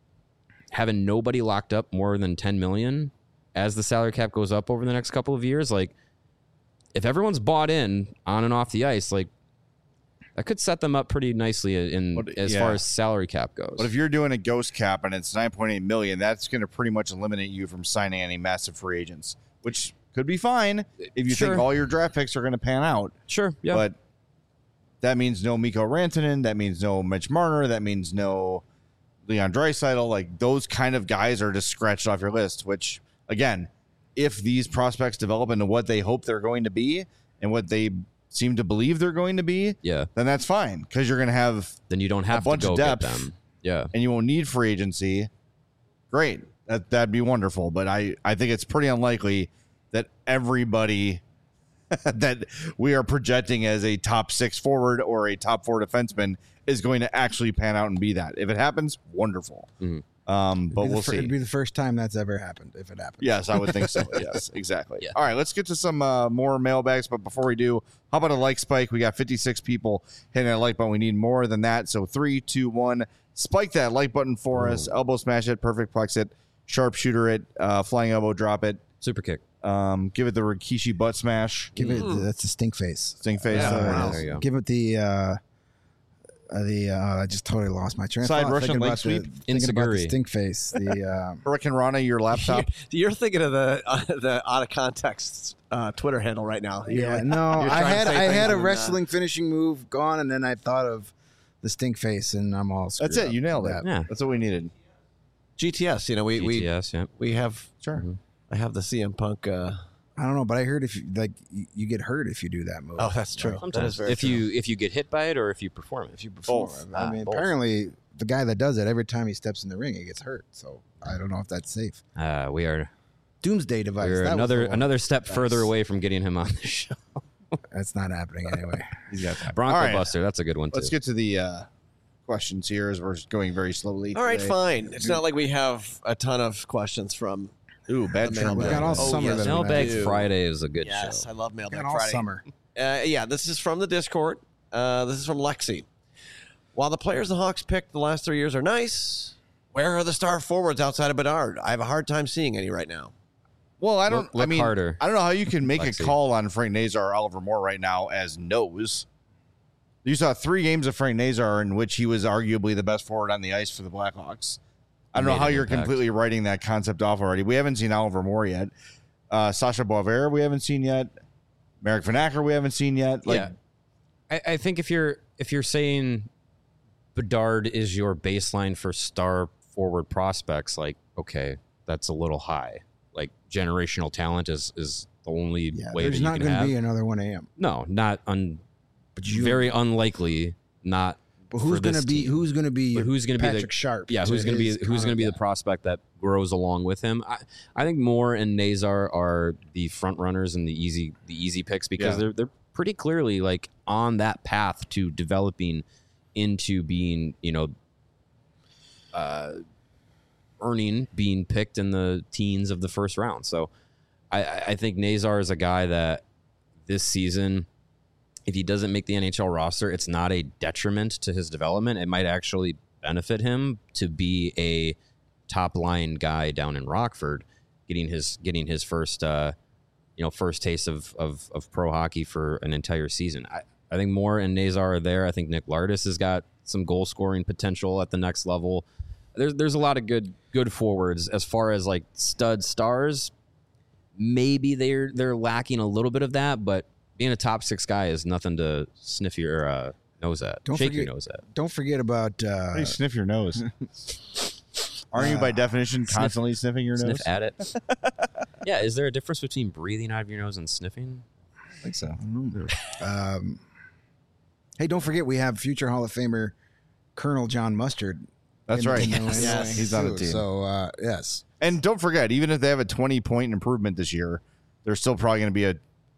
having nobody locked up more than ten million as the salary cap goes up over the next couple of years, like, if everyone's bought in on and off the ice, like, that could set them up pretty nicely in But, as yeah. far as salary cap goes. But if you're doing a ghost cap and it's nine point eight million, that's going to pretty much eliminate you from signing any massive free agents, which could be fine if you Sure. think all your draft picks are going to pan out. Sure, yeah. But that means no Mikko Rantanen. That means no Mitch Marner. That means no Leon Draisaitl. Like, those kind of guys are just scratched off your list, which, again, if these prospects develop into what they hope they're going to be and what they seem to believe they're going to be, yeah, then that's fine because you're going to have then you don't have to bunch of go get depth. them. Yeah. and you won't need free agency. Great. That, that'd be wonderful. But I, I think it's pretty unlikely that everybody that we are projecting as a top six forward or a top four defenseman is going to actually pan out and be that. If it happens, wonderful. Mhm. Um, but It'd be the we'll fir- see. It'd be the first time that's ever happened, if it happens. Yes, I would think so. Yes, exactly. Yeah. All right, let's get to some uh, more mailbags. But before we do, how about a like spike? We got fifty-six people hitting that like button. We need more than that. So three, two, one. Spike that like button for us. Elbow smash it. Perfect plex it. Sharpshooter it. Uh, flying elbow drop it. Super kick. Um, give it the Rikishi butt smash. Give it Mm. that's a stink face. Sting face. Yeah, there it wow. is. There you go. Give it the uh, uh, the uh, I just totally lost my train of Side thought. Russian Thinking leg about the- sweep. Thinking about the Insiguri. stink face. The um, Hurricane Rana, your laptop. You're thinking of the uh, the out of context uh, Twitter handle right now. You're yeah, like- no, you're I trying to had say I things had a and, uh, wrestling finishing move gone, and then I thought of the stink face, and I'm all. That's screwed it. You up nailed with it. that. Yeah. That's what we needed. G T S. You know, we we G T S, yeah. we have. Sure. I have the C M Punk. Uh, I don't know, but I heard if you like you, you get hurt if you do that move. oh, that's true. That is Sometimes. very If true. you if you get hit by it or if you perform it. If you perform, Both. I Ah, mean, both. apparently the guy that does it every time he steps in the ring, he gets hurt. So I don't know if that's safe. Uh, we are Doomsday device. we're that was another the one. another step Nice. further away from getting him on the show. That's not happening anyway. He's got that. Bronco All right. Buster, that's a good one too. Let's get to the uh, questions here as we're going very slowly. All right, today. fine. It's not like we have a ton of questions from. Ooh, bad The trend. mailbag. We got all Oh, summer. yes, that we we Mailbag do. Friday is a good Yes, show. I love Mailbag got all Friday. summer. Uh, yeah, this is from the Discord. Uh, this is from Lexi. While the players the Hawks picked the last three years are nice, where are the star forwards outside of Bedard? I have a hard time seeing any right now. Well, I don't. Look- look I mean, harder. I don't know how you can make Lexi. a call on Frank Nazar or Oliver Moore right now as nose. You saw three games of Frank Nazar in which he was arguably the best forward on the ice for the Blackhawks. I don't He know made how an you're impact. completely writing that concept off already. We haven't seen Oliver Moore yet. Uh, Sasha Boisvert, we haven't seen yet. Marek Vanacker, we haven't seen yet. Like, yeah, I, I think if you're if you're saying Bedard is your baseline for star forward prospects, like, okay, that's a little high. Like, generational talent is is the only Yeah, way that there's you not can going to have. be another one A M. No, not un. But you, Very unlikely. Not. But who's for going to this be? team. Who's going to be? But who's gonna be the- Patrick Sharp? Yeah, to who's going to be his who's going to be the Connor prospect that grows along with him? I, I think Moore and Nazar are the front runners and the easy the easy picks because Yeah. they're they're pretty clearly like on that path to developing into being, you know, uh, earning being picked in the teens of the first round. So I, I I think Nazar is a guy that this season, if he doesn't make the N H L roster, it's not a detriment to his development. It might actually benefit him to be a top line guy down in Rockford, getting his getting his first uh, you know first taste of, of of pro hockey for an entire season. I, I think Moore and Nazar are there. I think Nick Lardis has got some goal scoring potential at the next level. There's there's a lot of good good forwards as far as like stud stars. Maybe they're they're lacking a little bit of that, but being a top six guy is nothing to sniff your uh, nose at. Don't Shake forget- your nose at. Don't forget about. Uh, how do you sniff your nose? Aren't you by definition constantly sniffing your Sniff nose? at it. Yeah, is there a difference between breathing out of your nose and sniffing? I think so. um, hey, don't forget we have future Hall of Famer Colonel John Mustard. That's in- right. in the Yes. anyway, Yes. He's on the too. team. So uh, yes, And don't forget, even if they have a twenty point improvement this year, there's still probably going to be a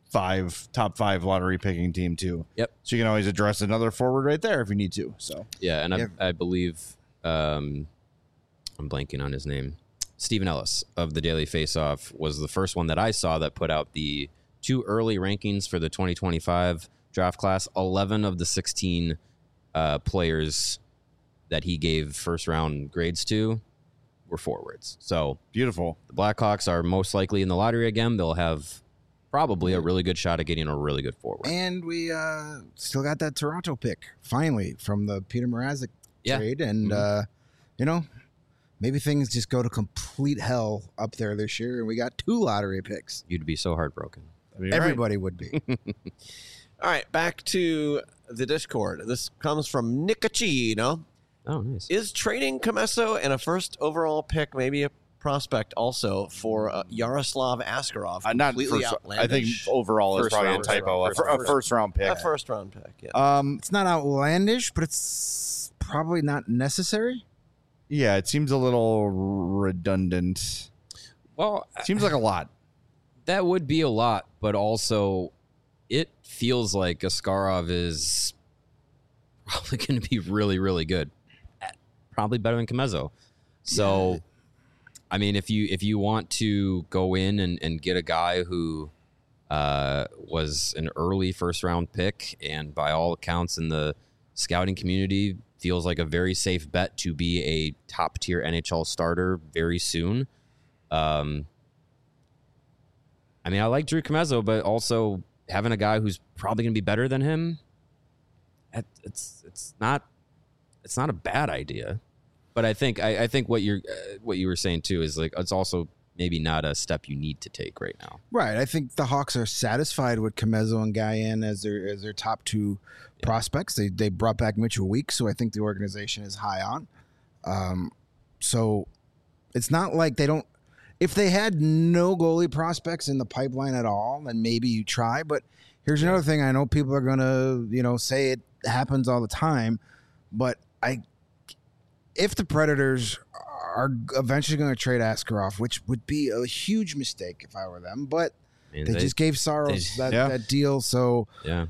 five top five lottery picking team too. Yep. So you can always address another forward right there if you need to. So Yeah, and Yeah. I, I believe um, I'm blanking on his name. Stephen Ellis of the Daily Faceoff was the first one that I saw that put out the two early rankings for the twenty twenty-five draft class. eleven of the sixteen uh, players that he gave first round grades to were forwards. So beautiful. the Blackhawks are most likely in the lottery again. They'll have probably a really good shot at getting a really good forward. And we uh, still got that Toronto pick finally from the Peter Mrazek Yeah. trade, and Mhm. uh, you know, maybe things just go to complete hell up there this year, and we got two lottery picks. You'd be so heartbroken. I mean, right. Everybody would be. All right, back to the Discord. This comes from Nicocino. Oh, nice. Is trading Comesso and a first overall pick maybe a prospect also for uh, Yaroslav Askarov? Uh, not completely first, I outlandish? think overall is First probably a round. typo. A, First fir- a round. first round pick. a first round pick. Yeah. Um, It's not outlandish, but it's probably not necessary. yeah, it seems a little redundant. Well, Seems like a lot. that would be a lot, but also it feels like Askarov is probably going to be really, really good. Probably better than Comezo. So, Yeah. I mean, if you if you want to go in and, and get a guy who uh, was an early first round pick and by all accounts in the scouting community feels like a very safe bet to be a top tier N H L starter very soon. Um, I mean, I like Drew Comezo, but also having a guy who's probably going to be better than him, it- it's it's not it's not a bad idea. But I think I, I think what you're uh, what you were saying too is like it's also maybe not a step you need to take right now. Right. I think the Hawks are satisfied with Comezo and Guyan as their as their top two Yeah. prospects. They they brought back Mitchell Weeks, so I think the organization is high on. Um, so it's not like they don't. If they had no goalie prospects in the pipeline at all, then maybe you try. But here's another thing: I know people are gonna you know say it happens all the time, but I. If the Predators are eventually going to trade Askarov, which would be a huge mistake if I were them, but I mean, they, just gave Saros they- that, Yeah. that deal. So yeah.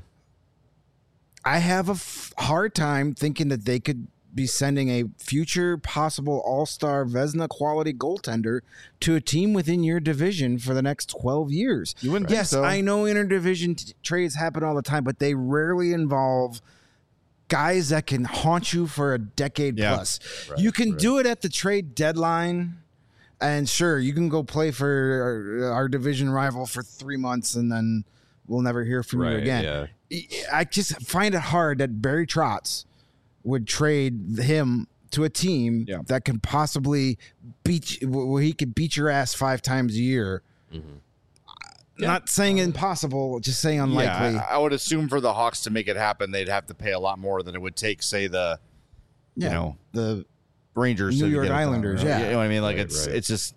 I have a f- hard time thinking that they could be sending a future possible all-star Vezina quality goaltender to a team within your division for the next twelve years. You wouldn't think Yes, so. I know interdivision t- trades happen all the time, but they rarely involve guys that can haunt you for a decade Yeah. plus. you can do it at the trade deadline, and sure, you can go play for our, our division rival for three months, and then we'll never hear from you again. Yeah. I just find it hard that Barry Trotz would trade him to a team Yeah. that can possibly beat where he could beat your ass five times a year. Mhm. Not saying impossible, just saying unlikely. Yeah, I, I would assume for the Hawks to make it happen, they'd have to pay a lot more than it would take, say, the Yeah. you know the Rangers, New to York get it done, Islanders, right? yeah. You know what I mean? Like Right, it's right. it's just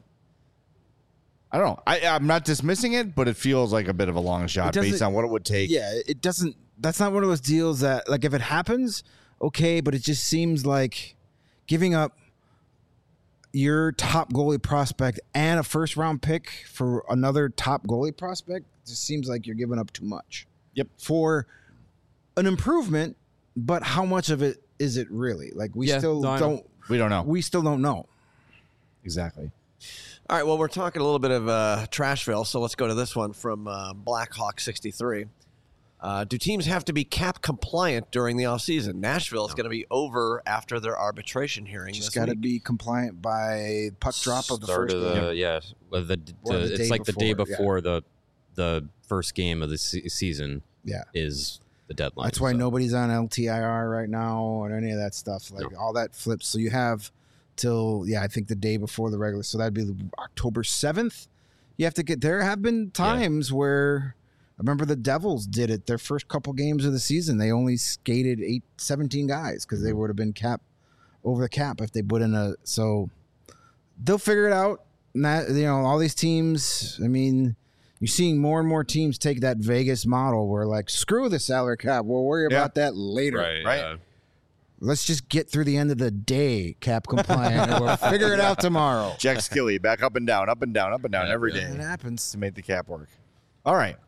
I don't know. I I'm not dismissing it, but it feels like a bit of a long shot doesn't- based on what it would take. yeah, it doesn't. That's not one of those deals that, like, if it happens, okay, but it just seems like giving up your top goalie prospect and a first round pick for another top goalie prospect just seems like you're giving up too much. Yep. For an improvement, but how much of it is it really? Like, we Yeah, still no, I know. don't. We don't know We still don't know. exactly. All right, well, we're talking a little bit of uh, Trashville, so let's go to this one from uh, Blackhawk sixty-three. Uh, do teams have to be cap compliant during the offseason? Nashville is going to be over after their arbitration hearing Just this got to week. be compliant by puck drop of the Start first of game. the, yeah, well, the, Or the- the it's day like the day before, yeah. before the the first game of the se- season Yeah. is the deadline. That's why so. nobody's on L T I R right now or any of that stuff. Like, all that flips. So you have till, yeah, I think the day before the regular. So that'd be October seventh. You have to get, there have been times where, I remember the Devils did it their first couple games of the season. They only skated eight, seventeen guys because they would have been cap over the cap if they put in a, so they'll figure it out. And that, you know, all these teams, I mean, you're seeing more and more teams take that Vegas model where, like, screw the salary cap. We'll worry Yeah. about that later. right, right? yeah. Let's just get through the end of the day cap compliant, and we'll figure it out tomorrow. Jack Skilly back up and down, up and down, up and down Yeah, every yeah. day It happens. to make the cap work. All right.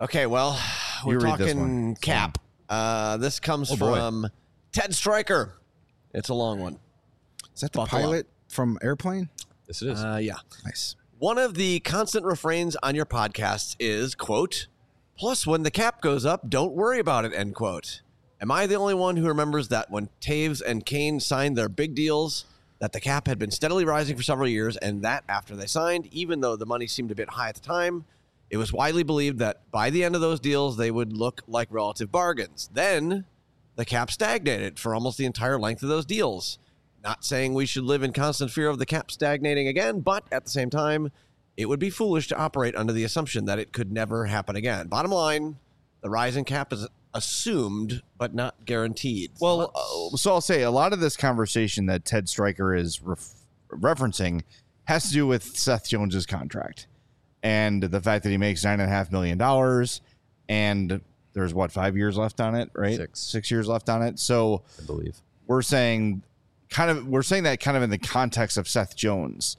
Okay, well, we're You read this talking one. cap. Uh, this comes Oh, boy. from Ted Stryker. It's a long one. Is that the Buckle up. pilot from Airplane? Yes, it is. Uh, yeah. Nice. One of the constant refrains on your podcasts is, quote, plus when the cap goes up, don't worry about it, end quote. Am I the only one who remembers that when Taves and Kane signed their big deals, that the cap had been steadily rising for several years, and that after they signed, even though the money seemed a bit high at the time, it was widely believed that by the end of those deals, they would look like relative bargains. Then the cap stagnated for almost the entire length of those deals. Not saying we should live in constant fear of the cap stagnating again, but at the same time, it would be foolish to operate under the assumption that it could never happen again. Bottom line, the rising cap is assumed but not guaranteed. Well, Thoughts? uh, so I'll say a lot of this conversation that Ted Stryker is ref- referencing has to do with Seth Jones's contract and the fact that he makes nine and a half million dollars, and there's what five years left on it, right? Six. Six years left on it. So I believe. we're saying kind of we're saying that kind of in the context of Seth Jones,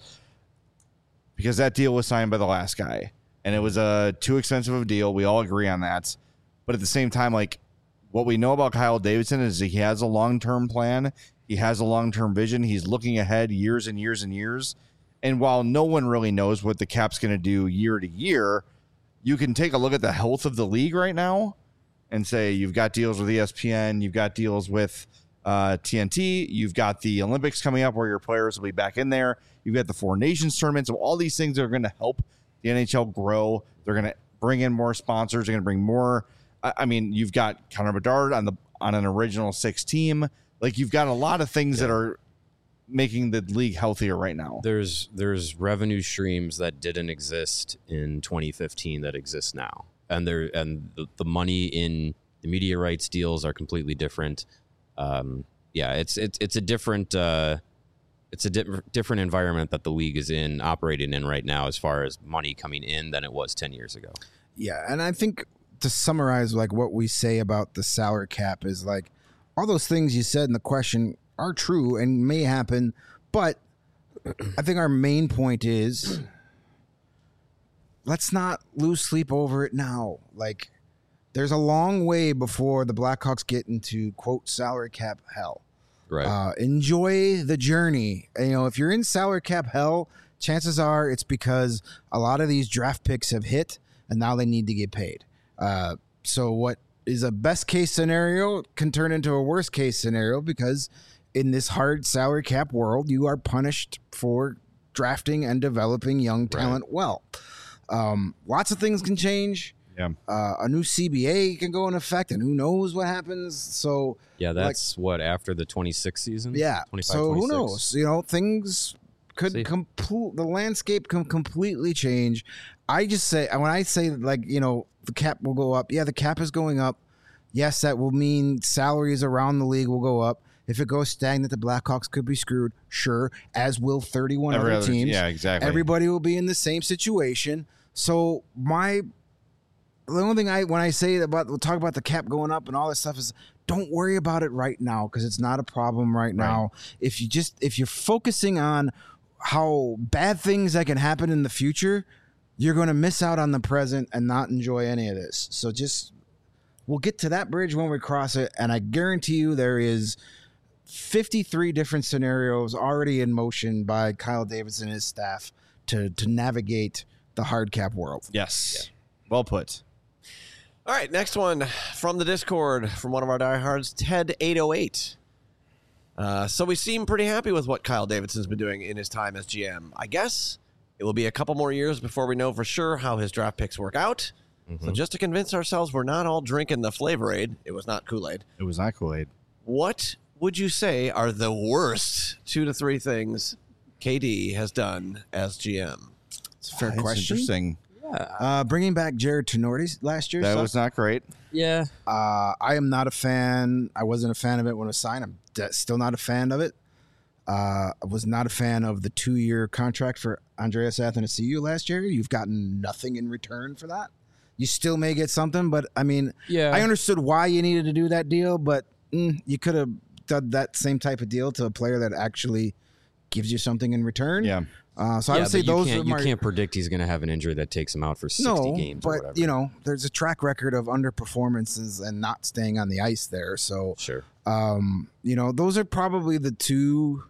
because that deal was signed by the last guy, and it was a too expensive of a deal. We all agree on that. But at the same time, like what we know about Kyle Davidson is that he has a long-term plan. He has a long-term vision. He's looking ahead years and years and years. And while no one really knows what the cap's going to do year to year, you can take a look at the health of the league right now and say you've got deals with E S P N, you've got deals with uh, T N T, you've got the Olympics coming up where your players will be back in there. You've got the Four Nations tournament. So all these things are going to help the N H L grow. They're going to bring in more sponsors. They're going to bring more. I, I mean, you've got Connor Bedard on the on an original six team. Like you've got a lot of things yeah. that are making the league healthier right now. There's there's revenue streams that didn't exist in twenty fifteen that exist now, and there and the, the money in the media rights deals are completely different. Um, yeah, it's it's it's a different uh, it's a di- different environment that the league is in operating in right now as far as money coming in than it was ten years ago. Yeah, and I think to summarize, like what we say about the salary cap is like all those things you said in the question are true and may happen, but I think our main point is let's not lose sleep over it now. Like there's a long way before the Blackhawks get into quote salary cap hell. Right. Uh, enjoy the journey. You know, if you're in salary cap hell, chances are it's because a lot of these draft picks have hit and now they need to get paid. Uh, so what is a best case scenario can turn into a worst case scenario because in this hard salary cap world, you are punished for drafting and developing young talent right. well. Um, lots of things can change. Yeah. Uh, a new C B A can go in effect, and who knows what happens. So yeah, that's like, what after the twenty-six season. Yeah. So who knows? You know, things could complete. The landscape can completely change. I just say when I say like you know the cap will go up. Yeah, the cap is going up. Yes, that will mean salaries around the league will go up. If it goes stagnant, the Blackhawks could be screwed. Sure, as will thirty-one Every other, other teams. Yeah, exactly. Everybody will be in the same situation. So my the only thing I when I say about we'll talk about the cap going up and all this stuff is don't worry about it right now because it's not a problem right now. Right. If you just if you're focusing on how bad things that can happen in the future, you're going to miss out on the present and not enjoy any of this. So just we'll get to that bridge when we cross it, and I guarantee you there is fifty-three different scenarios already in motion by Kyle Davidson and his staff to to navigate the hard cap world. Yes. Yeah. Well put. All right, next one from the Discord from one of our diehards, Ted eight oh eight. Uh, so we seem pretty happy with what Kyle Davidson's been doing in his time as G M. I guess it will be a couple more years before we know for sure how his draft picks work out. Mm-hmm. So just to convince ourselves we're not all drinking the Flavor-Aid, it was not Kool-Aid. It was not Kool-Aid. What would you say are the worst two to three things K D has done as G M? It's a fair oh, question. Interesting. Uh, bringing back Jared Tenorti last year. That sucked. was not great. Yeah. Uh, I am not a fan. I wasn't a fan of it when it was signed. I'm de- still not a fan of it. Uh, I was not a fan of the two-year contract for Andreas Athanasiou last year. You've gotten nothing in return for that. You still may get something, but I mean, yeah. I understood why you needed to do that deal, but mm, you could have done that same type of deal to a player that actually gives you something in return. Yeah. Uh, so yeah, I would say but you those can't, are you my, can't predict he's going to have an injury that takes him out for sixty no, games or but whatever. you know, there's a track record of underperformances and not staying on the ice there. So, Sure. um, you know, those are probably the two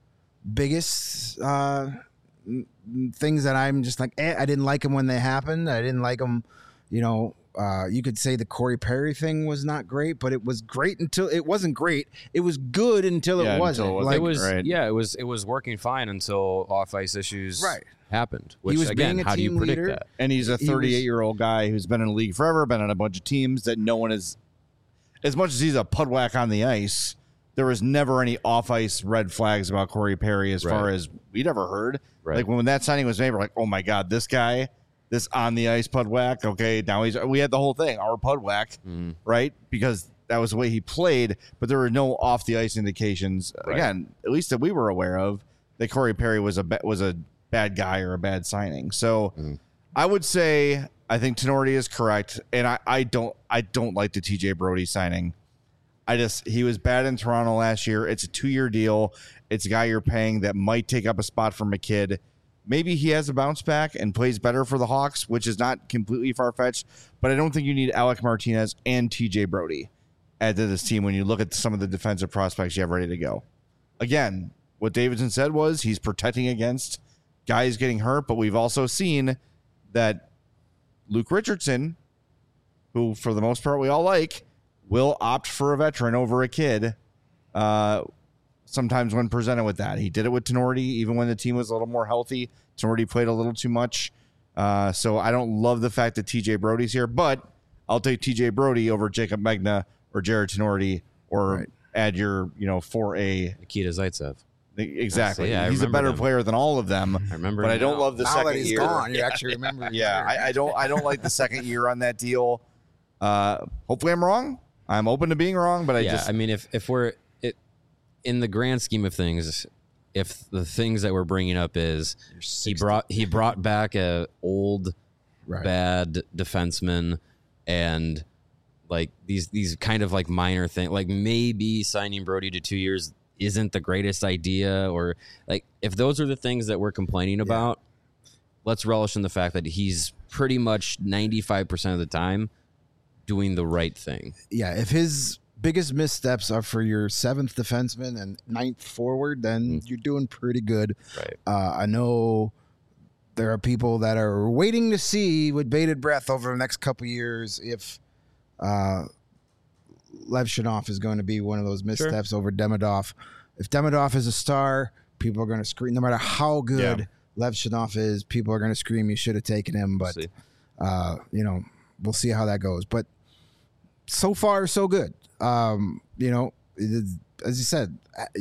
biggest uh, n- n- things that I'm just like, eh, I didn't like them when they happened. I didn't like them, you know. Uh, you could say the Corey Perry thing was not great, but it was great until it wasn't great. It was good until Yeah, it until wasn't. it wasn't. Like, it was right. yeah, it was it was working fine until off ice issues Right. happened. Which was again, being a how do you team predict leader. that? And he's a He was- thirty-eight-year-old guy who's been in the league forever, been on a bunch of teams that no one is. As much as he's a pudwhack on the ice, there was never any off-ice red flags about Corey Perry as far Right. as we'd ever heard. Right. Like when that signing was made, we're like, oh my god, this guy, this on the ice pudwhack. Okay, now he's. We had the whole thing, our pudwhack, Mhm. right? Because that was the way he played, but there were no off the ice indications. Right. Again, at least that we were aware of, that Corey Perry was a ba- was a bad guy or a bad signing. So Mhm. I would say I think Tenorti is correct, and I, I don't I don't like the T J Brody signing. I just he was bad in Toronto last year. It's a two year deal. It's a guy you're paying that might take up a spot for McKidd. Maybe he has a bounce back and plays better for the Hawks, which is not completely far fetched. But I don't think you need Alec Martinez and T J Brody add to this team when you look at some of the defensive prospects you have ready to go. Again, what Davidson said was he's protecting against guys getting hurt, but we've also seen that Luke Richardson, who for the most part we all like, will opt for a veteran over a kid uh, sometimes when presented with that. He did it with Tenorti, even when the team was a little more healthy. Tenorti played a little too much. Uh, so I don't love the fact that T J Brody's here, but I'll take T J Brody over Jacob Megna or Jared Tenorti or Right. add your, you know, four A. Nikita Zaitsev. Exactly. Yeah, I He's a remember better him. player than all of them. I remember. But I him don't now. love the now second that he's year. gone, you actually remember. Yeah, I, I don't. I don't like the second year on that deal. Uh, hopefully, I'm wrong. I'm open to being wrong, but I yeah, just I mean, if if we're it in the grand scheme of things, if the things that we're bringing up is he brought he brought back a old Right. bad defenseman and like these these kind of like minor things, like maybe signing Brody to two years isn't the greatest idea, or like if those are the things that we're complaining about, let's relish in the fact that he's pretty much ninety-five percent of the time doing the right thing. Yeah, if his biggest missteps are for your seventh defenseman and ninth forward, then you're doing pretty good. Right. Uh, I know there are people that are waiting to see with bated breath over the next couple years if uh, Lev Shanoff is going to be one of those missteps over Demidov. If Demidov is a star, people are going to scream. No matter how good Yeah. Lev Shanoff is, people are going to scream, you should have taken him. But, See. uh, you know, we'll see how that goes. But so far, so good. Um, you know, it is- as you said,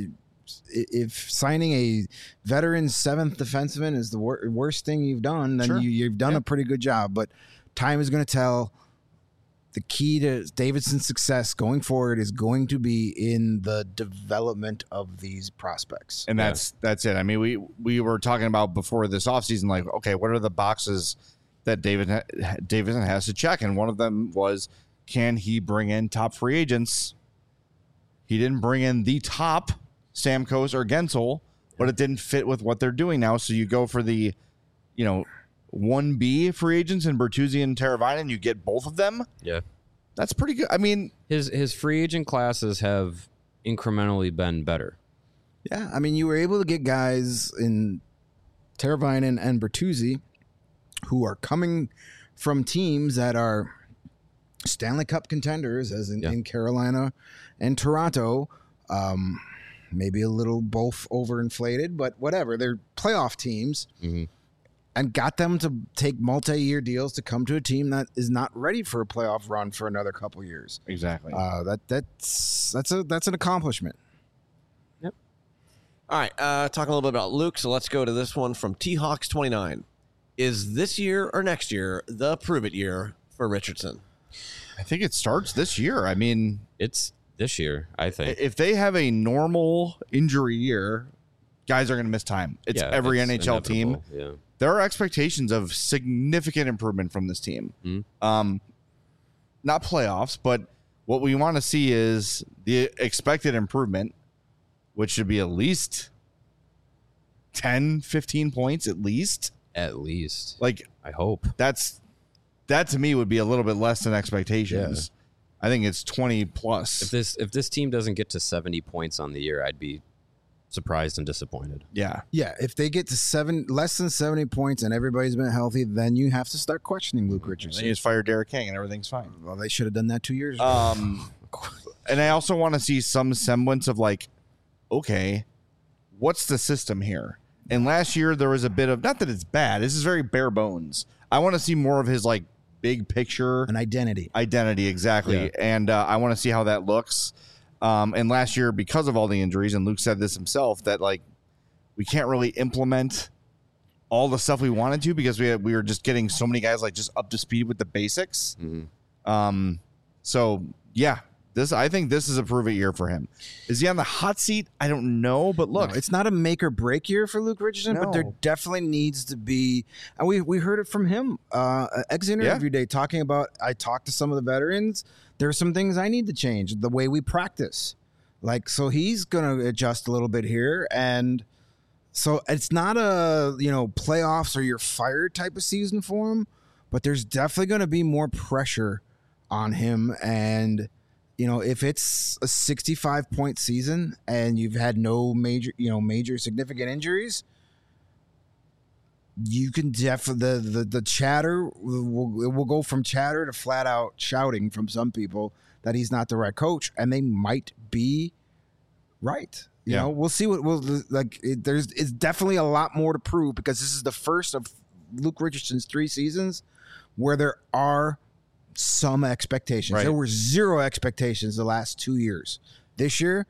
if signing a veteran seventh defenseman is the wor- worst thing you've done, then Sure. you, you've done Yeah. a pretty good job. But time is going to tell. The key to Davidson's success going forward is going to be in the development of these prospects. and that's that's it. I mean, we we were talking about before this offseason, like, okay, what are the boxes that David ha- Davidson has to check? And one of them was, can he bring in top free agents? He didn't bring in the top Stamkos or Gensel, but it didn't fit with what they're doing now. So you go for the, you know, one B free agents in Bertuzzi and Teravainen, you get both of them. Yeah. That's pretty good. I mean, His his free agent classes have incrementally been better. Yeah, I mean, you were able to get guys in Teravainen and Bertuzzi who are coming from teams that are Stanley Cup contenders, as in, Yeah. in Carolina and Toronto. Um, maybe a little both overinflated, but whatever. They're playoff teams. Mm-hmm. And got them to take multi-year deals to come to a team that is not ready for a playoff run for another couple years. exactly. Uh, that that's that's a that's an accomplishment. All right, uh, talking a little bit about Luke, so let's go to this one from T Hawks twenty-nine. Is this year or next year the prove it year for Richardson? I think it starts this year. I mean, It's this year, I think. if they have a normal injury year, guys are going to miss time. It's Yeah, every it's N H L team. inevitable. Yeah. There are expectations of significant improvement from this team. Mhm. Um, not playoffs, but what we want to see is the expected improvement, which should be at least ten, fifteen points at least. At least. Like I hope. that's that to me would be a little bit less than expectations. I think it's twenty plus. If this if this team doesn't get to seventy points on the year, I'd be surprised and disappointed. yeah. Yeah, if they get to seven less than seventy points and everybody's been healthy, then you have to start questioning Luke Then Richardson. you just fire Derek King and everything's fine. Well, they should have done that two years ago. Um, and I also want to see some semblance of like, okay, what's the system here? And last year there was a bit of, not that it's bad. This is very bare bones. I want to see more of his like big picture An identity. identity, exactly. Yeah. And uh, I want to see how that looks. Um, and last year, because of all the injuries, and Luke said this himself, that like we can't really implement all the stuff we wanted to because we had, we were just getting so many guys like just up to speed with the basics. Mm-hmm. Um, so yeah, this I think this is a prove it year for him. Is he on the hot seat? I don't know, but look, No, it's not a make or break year for Luke Richardson, but there No. definitely needs to be. And we we heard it from him, uh, ex interview day, talking about. I talked to some of the veterans. There are some things I need to change the way we practice. Like, so he's going to adjust a little bit here. And so it's not a, you know, playoffs or you're fired type of season for him, but there's definitely going to be more pressure on him. And, you know, if it's a sixty-five point season and you've had no major, you know, major significant injuries, you can definitely the, the the chatter will, it will go from chatter to flat out shouting from some people that he's not the right coach, and they might be right. You Yeah. know, we'll see what we'll like. It, there's it's definitely a lot more to prove because this is the first of Luke Richardson's three seasons where there are some expectations. Right. There were zero expectations the last two years. This year,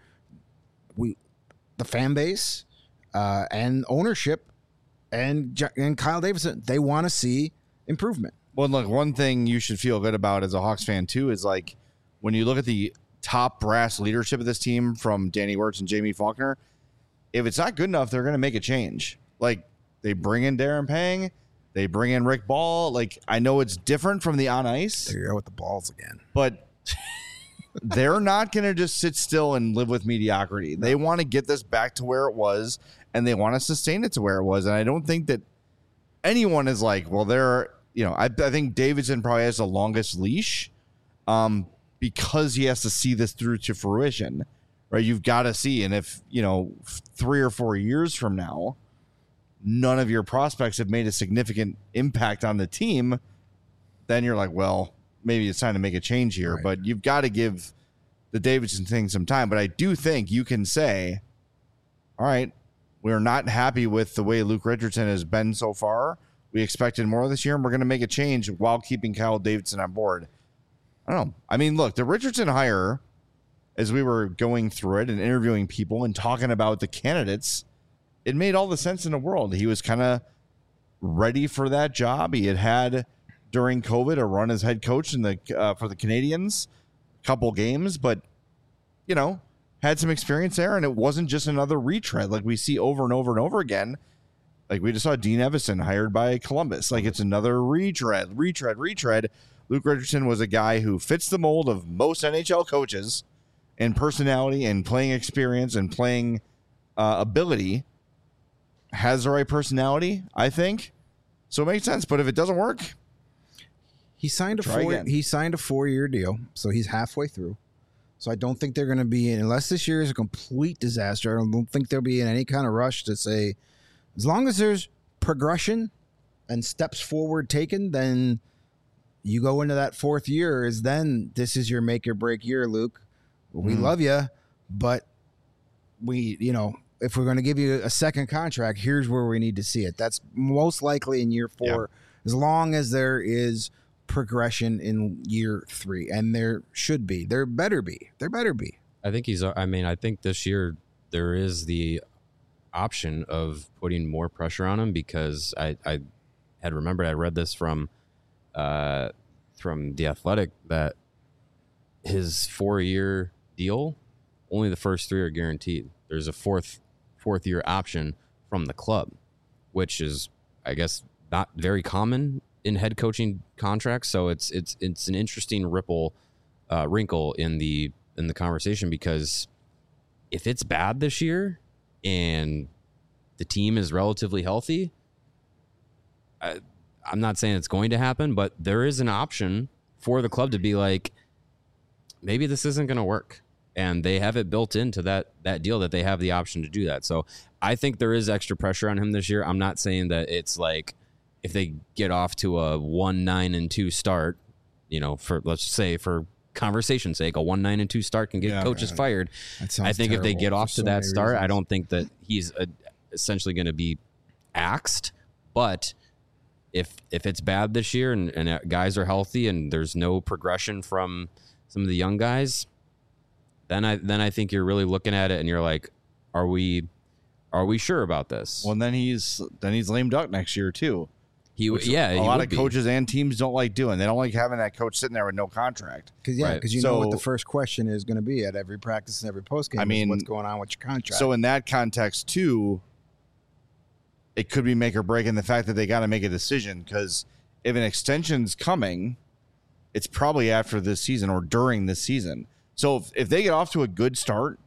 we the fan base uh, and ownership. And J- and Kyle Davidson, they want to see improvement. well, look, one thing you should feel good about as a Hawks fan too is like when you look at the top brass leadership of this team from Danny Wirtz and Jamie Faulkner, if it's not good enough, they're going to make a change. Like they bring in Darren Pang, they bring in Rick Ball. Like I know it's different from the on ice, There you go with the balls again. but they're not going to just sit still and live with mediocrity. They want to get this back to where it was, and they want to sustain it to where it was. And I don't think that anyone is like, well, they're, you know, I, I think Davidson probably has the longest leash um, because he has to see this through to fruition, right? You've got to see. And if, you know, three or four years from now, none of your prospects have made a significant impact on the team, then you're like, well, maybe it's time to make a change here. Right. But you've got to give the Davidson thing some time. But I do think you can say, all right, we're not happy with the way Luke Richardson has been so far. We expected more this year, and we're going to make a change while keeping Kyle Davidson on board. I don't know. I mean, look, the Richardson hire, as we were going through it and interviewing people and talking about the candidates, it made all the sense in the world. He was kind of ready for that job. He had had during COVID a run as head coach in the uh, for the Canadians, a couple games, but you know, had some experience there, and it wasn't just another retread like we see over and over and over again. Like we just saw Dean Evison hired by Columbus. Like it's another retread, retread, retread. Luke Richardson was a guy who fits the mold of most N H L coaches in personality and playing experience and playing uh, ability. Has the right personality, I think. So it makes sense. But if it doesn't work, He signed a Try four. again. He signed a four-year deal, so he's halfway through. So I don't think they're going to be in, unless this year is a complete disaster. I don't think they'll be in any kind of rush to say, as long as there's progression and steps forward taken, then you go into that fourth year. Is then this is your make or break year, Luke. We Mhm. love you, but we, you know, if we're going to give you a second contract, here's where we need to see it. That's most likely in year four, as long as there is progression in year three, and there should be. There better be. There better be. I think he's. I mean, I think this year there is the option of putting more pressure on him because I, I had remembered I read this from, uh, from The Athletic that his four-year deal, only the first three are guaranteed. There's a fourth fourth year option from the club, which is, I guess, not very common in head coaching contracts. So it's it's it's an interesting ripple uh, wrinkle in the in the conversation because if it's bad this year and the team is relatively healthy, I, I'm not saying it's going to happen, but there is an option for the club to be like, maybe this isn't going to work. And they have it built into that that deal that they have the option to do that. So I think there is extra pressure on him this year. I'm not saying that it's like if they get off to a one nine and two start, you know, for let's say for conversation's sake, a one nine and two start can get Yeah, coaches man. fired. That sounds I think if they terrible get for off to so that many start, I reasons. don't think that he's uh essentially going to be axed. But if if it's bad this year and, and guys are healthy and there's no progression from some of the young guys, then I then I think you're really looking at it and you're like, are we are we sure about this? Well, then he's then he's lame duck next year too. he Which yeah, a he lot would of be. coaches and teams don't like doing. They don't like having that coach sitting there with no contract. Because yeah, Right. because you know what the So- first question is going to be at every practice and every post game. I mean, what's going on with your contract? So in that context too, it could be make or break in the fact that they got to make a decision, because if an extension's coming, it's probably after this season or during this season. So if, if they get off to a good start,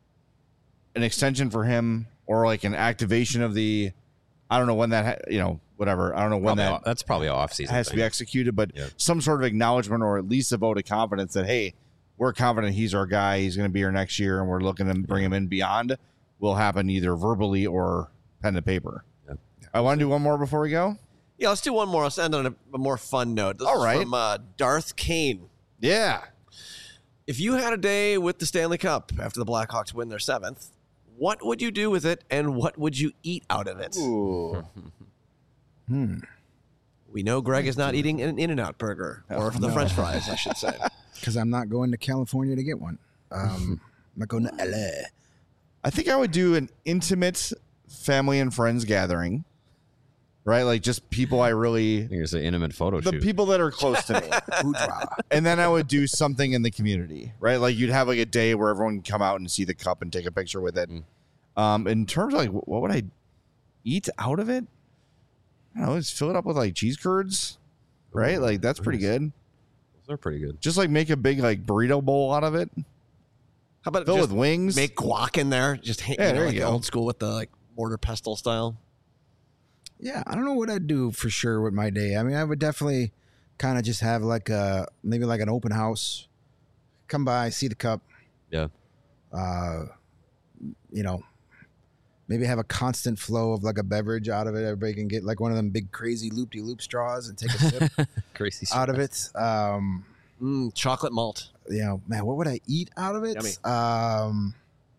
an extension for him or like an activation of the, I don't know when that, ha- you know, whatever. I don't know when Probably that off- that's probably off season. has to be executed, but Yeah. some sort of acknowledgement or at least a vote of confidence that, hey, we're confident he's our guy. He's going to be here next year, and we're looking to bring him in beyond, will happen either verbally or pen to paper. Yeah. I want to do one more before we go. Yeah, let's do one more. Let's end on a, a more fun note. This All is right. from uh, Darth Kane. Yeah. If you had a day with the Stanley Cup after the Blackhawks win their seventh, what would you do with it, and what would you eat out of it? Ooh. hmm. We know Greg is not eating an In-N-Out burger, or the no. French fries, I should say. Because I'm not going to California to get one. Um, I'm not going to L A. I think I would do an intimate family and friends gathering, right? Like just people I really, Here's an intimate photo the shoot. people that are close to me. Hoorah. And then I would do something in the community, right? Like you'd have like a day where everyone can come out and see the cup and take a picture with it. Mm. Um, in terms of like, wh- what would I eat out of it? I don't know, just fill it up with like cheese curds, right? Like that's pretty good. Those are pretty good. Just like make a big like burrito bowl out of it. How about Fill just with wings. make guac in there? Just hang, Yeah, you know, there like you the go. old school with the like mortar pestle style. Yeah, I don't know what I'd do for sure with my day. I mean, I would definitely kind of just have like a maybe like an open house. Come by, see the cup. Yeah. Uh, you know, maybe have a constant flow of like a beverage out of it. Everybody can get like one of them big crazy loop de loop straws and take a sip Crazy out of it. Um, Mm, chocolate malt. you know, man, what would I eat out of it? Yummy. Um,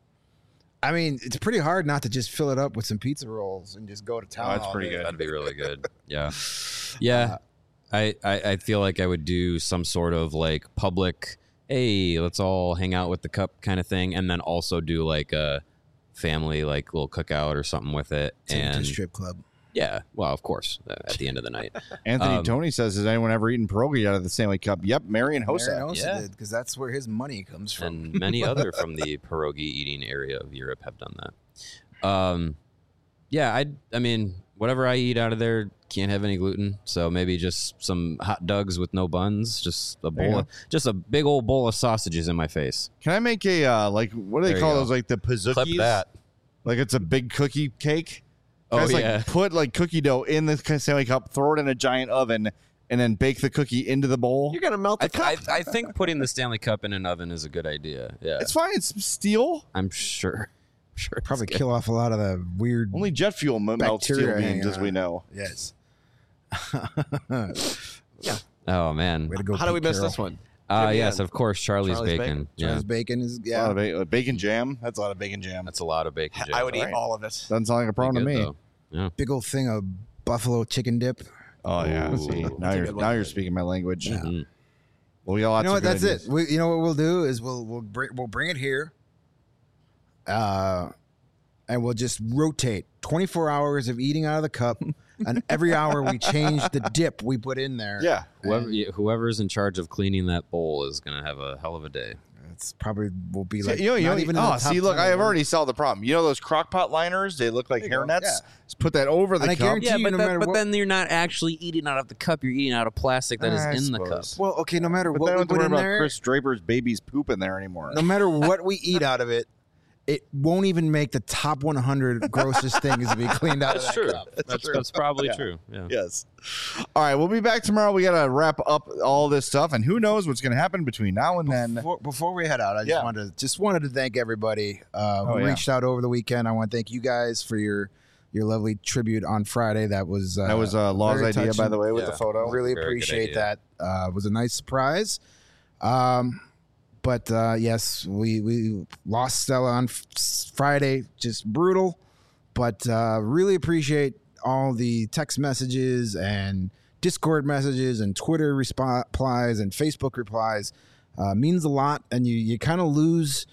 I mean, it's pretty hard not to just fill it up with some pizza rolls and just go to town. Oh, that's all pretty day. good. That'd be really good. Yeah. Yeah. I, I, I feel like I would do some sort of like public, hey, let's all hang out with the cup kind of thing. And then also do like a family, like little cookout or something with it. Take it to a And strip club. yeah, well, of course, uh, at the end of the night. Anthony Um, Tony says, has anyone ever eaten pierogi out of the Stanley Cup? Yep, Marion Hossa. Marion Hossa Yeah. did because that's where his money comes from. And many other from the pierogi eating area of Europe have done that. Um, yeah, I I mean, whatever I eat out of there can't have any gluten, so maybe just some hot dogs with no buns, just a There you bowl, of, just a big old bowl of sausages in my face. Can I make a, uh, like, what do they There you call go. those? Like the pizookies? Clip that. Like it's a big cookie cake. Oh, Guys, like, yeah. put like cookie dough in the Stanley Cup, throw it in a giant oven, and then bake the cookie into the bowl. You're gonna melt the I, cup. I, I think putting the Stanley Cup in an oven is a good idea. Yeah, It's fine. It's steel. I'm sure. Sure, it's Probably good. kill off a lot of the weird. Only jet fuel m- melts steel Bacteria beans, hanging as we on. know. Yes. Oh man. Way to go. How do we Pete miss Carroll. this one? Uh, Give me yes, a- of course, Charlie's, Charlie's bacon. Bacon. Yeah, Charles Bacon is A lot yeah. of ba- uh, bacon jam. That's a lot of bacon jam. that's a lot of bacon. I would jam. eat Right. all of it. Doesn't sound like a problem to Pretty me. good, though. Yeah. Big old thing of buffalo chicken dip. Oh yeah. Ooh. See, That's now a you're good one. now you're speking my language. Yeah. Mhm. Well, we got lots You know what? of good That's ideas. it. We, you know what we'll do is we'll we'll bring we'll bring it here. Uh, and we'll just rotate twenty-four hours of eating out of the cup, and every hour we change the dip we put in there. Yeah. Whoever yeah, whoever's in charge of cleaning that bowl is gonna have a hell of a day. It's probably will be See, like you know, you not know, even in the oh, top see, look, ten I have of already solved the problem. You know those crock pot liners? They look like There you go. hairnets. Yeah. Just put that over the And I cup. guarantee- Yeah, you, but, no that, matter but what- then you're not actually eating out of the cup. You're eating out of plastic that is I in the cup. suppose. Well, okay, no matter But what they don't we have to put worry in about there, Chris Draper's baby's poop in there anymore. no matter what we eat out of it, it won't even make the top one hundred grossest things to be cleaned out. That's of that true. cup. That's, that's probably Yeah. true. Yeah. Yes. All right, we'll be back tomorrow. We got to wrap up all this stuff, and who knows what's going to happen between now and then. Before, before we head out, I just Yeah. wanted to, just wanted to thank everybody uh, who Oh, yeah. reached out over the weekend. I want to thank you guys for your your lovely tribute on Friday. That was uh, That was uh, Law's very idea, by touching. the way, with Yeah. the photo. Really Very good appreciate idea. that. Uh, it was a nice surprise. Um, but uh, yes, we we lost Stella on f- Friday, just brutal. But uh, really appreciate all the text messages and Discord messages and Twitter respo- replies and Facebook replies. Uh, means a lot, and you you kind of lose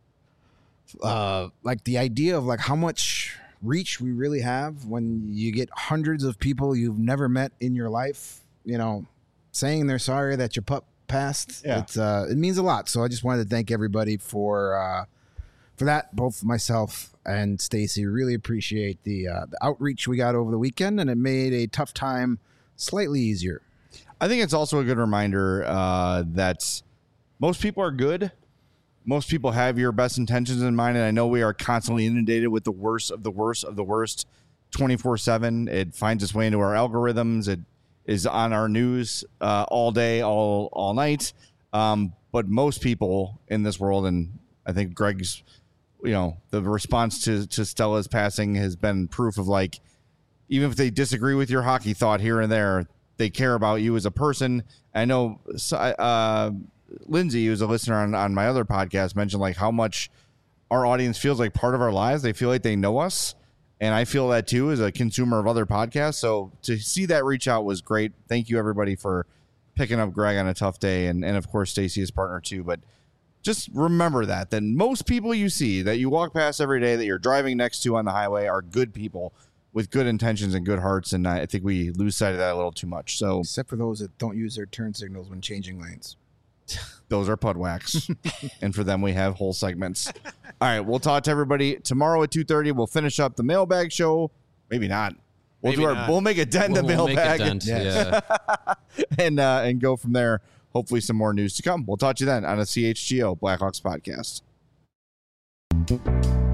uh, like the idea of like how much reach we really have when you get hundreds of people you've never met in your life, you know, saying they're sorry that your pup passed. Yeah. It's, uh, it means a lot. So I just wanted to thank everybody for uh, for that. Both myself and Stacy really appreciate the uh, the outreach we got over the weekend, and it made a tough time slightly easier. I think it's also a good reminder uh, that most people are good. Most people have your best intentions in mind, and I know we are constantly inundated with the worst of the worst of the worst twenty-four seven. It finds its way into our algorithms. It is on our news uh, all day, all all night. Um, but most people in this world, and I think Greg's, you know, the response to, to Stella's passing has been proof of like, even if they disagree with your hockey thought here and there, they care about you as a person. I know uh, Lindsay, who's a listener on, on my other podcast, mentioned like how much our audience feels like part of our lives. They feel like they know us. And I feel that too as a consumer of other podcasts. So to see that reach out was great. Thank you everybody for picking up Greg on a tough day. And, and of course, Stacy, his partner too. But just remember that, that most people you see that you walk past every day that you're driving next to on the highway are good people with good intentions and good hearts. And I think we lose sight of that a little too much. So Except for those that don't use their turn signals when changing lanes. those are Pudwax. And for them, we have whole segments. All right. We'll talk to everybody tomorrow at two thirty. We'll finish up the mailbag show. Maybe not. We'll Maybe do our, not. we'll make a dent in the We'll make a mailbag dent, Yes. yeah. and, uh, and go from there. Hopefully some more news to come. We'll talk to you then on a C H G O Blackhawks podcast.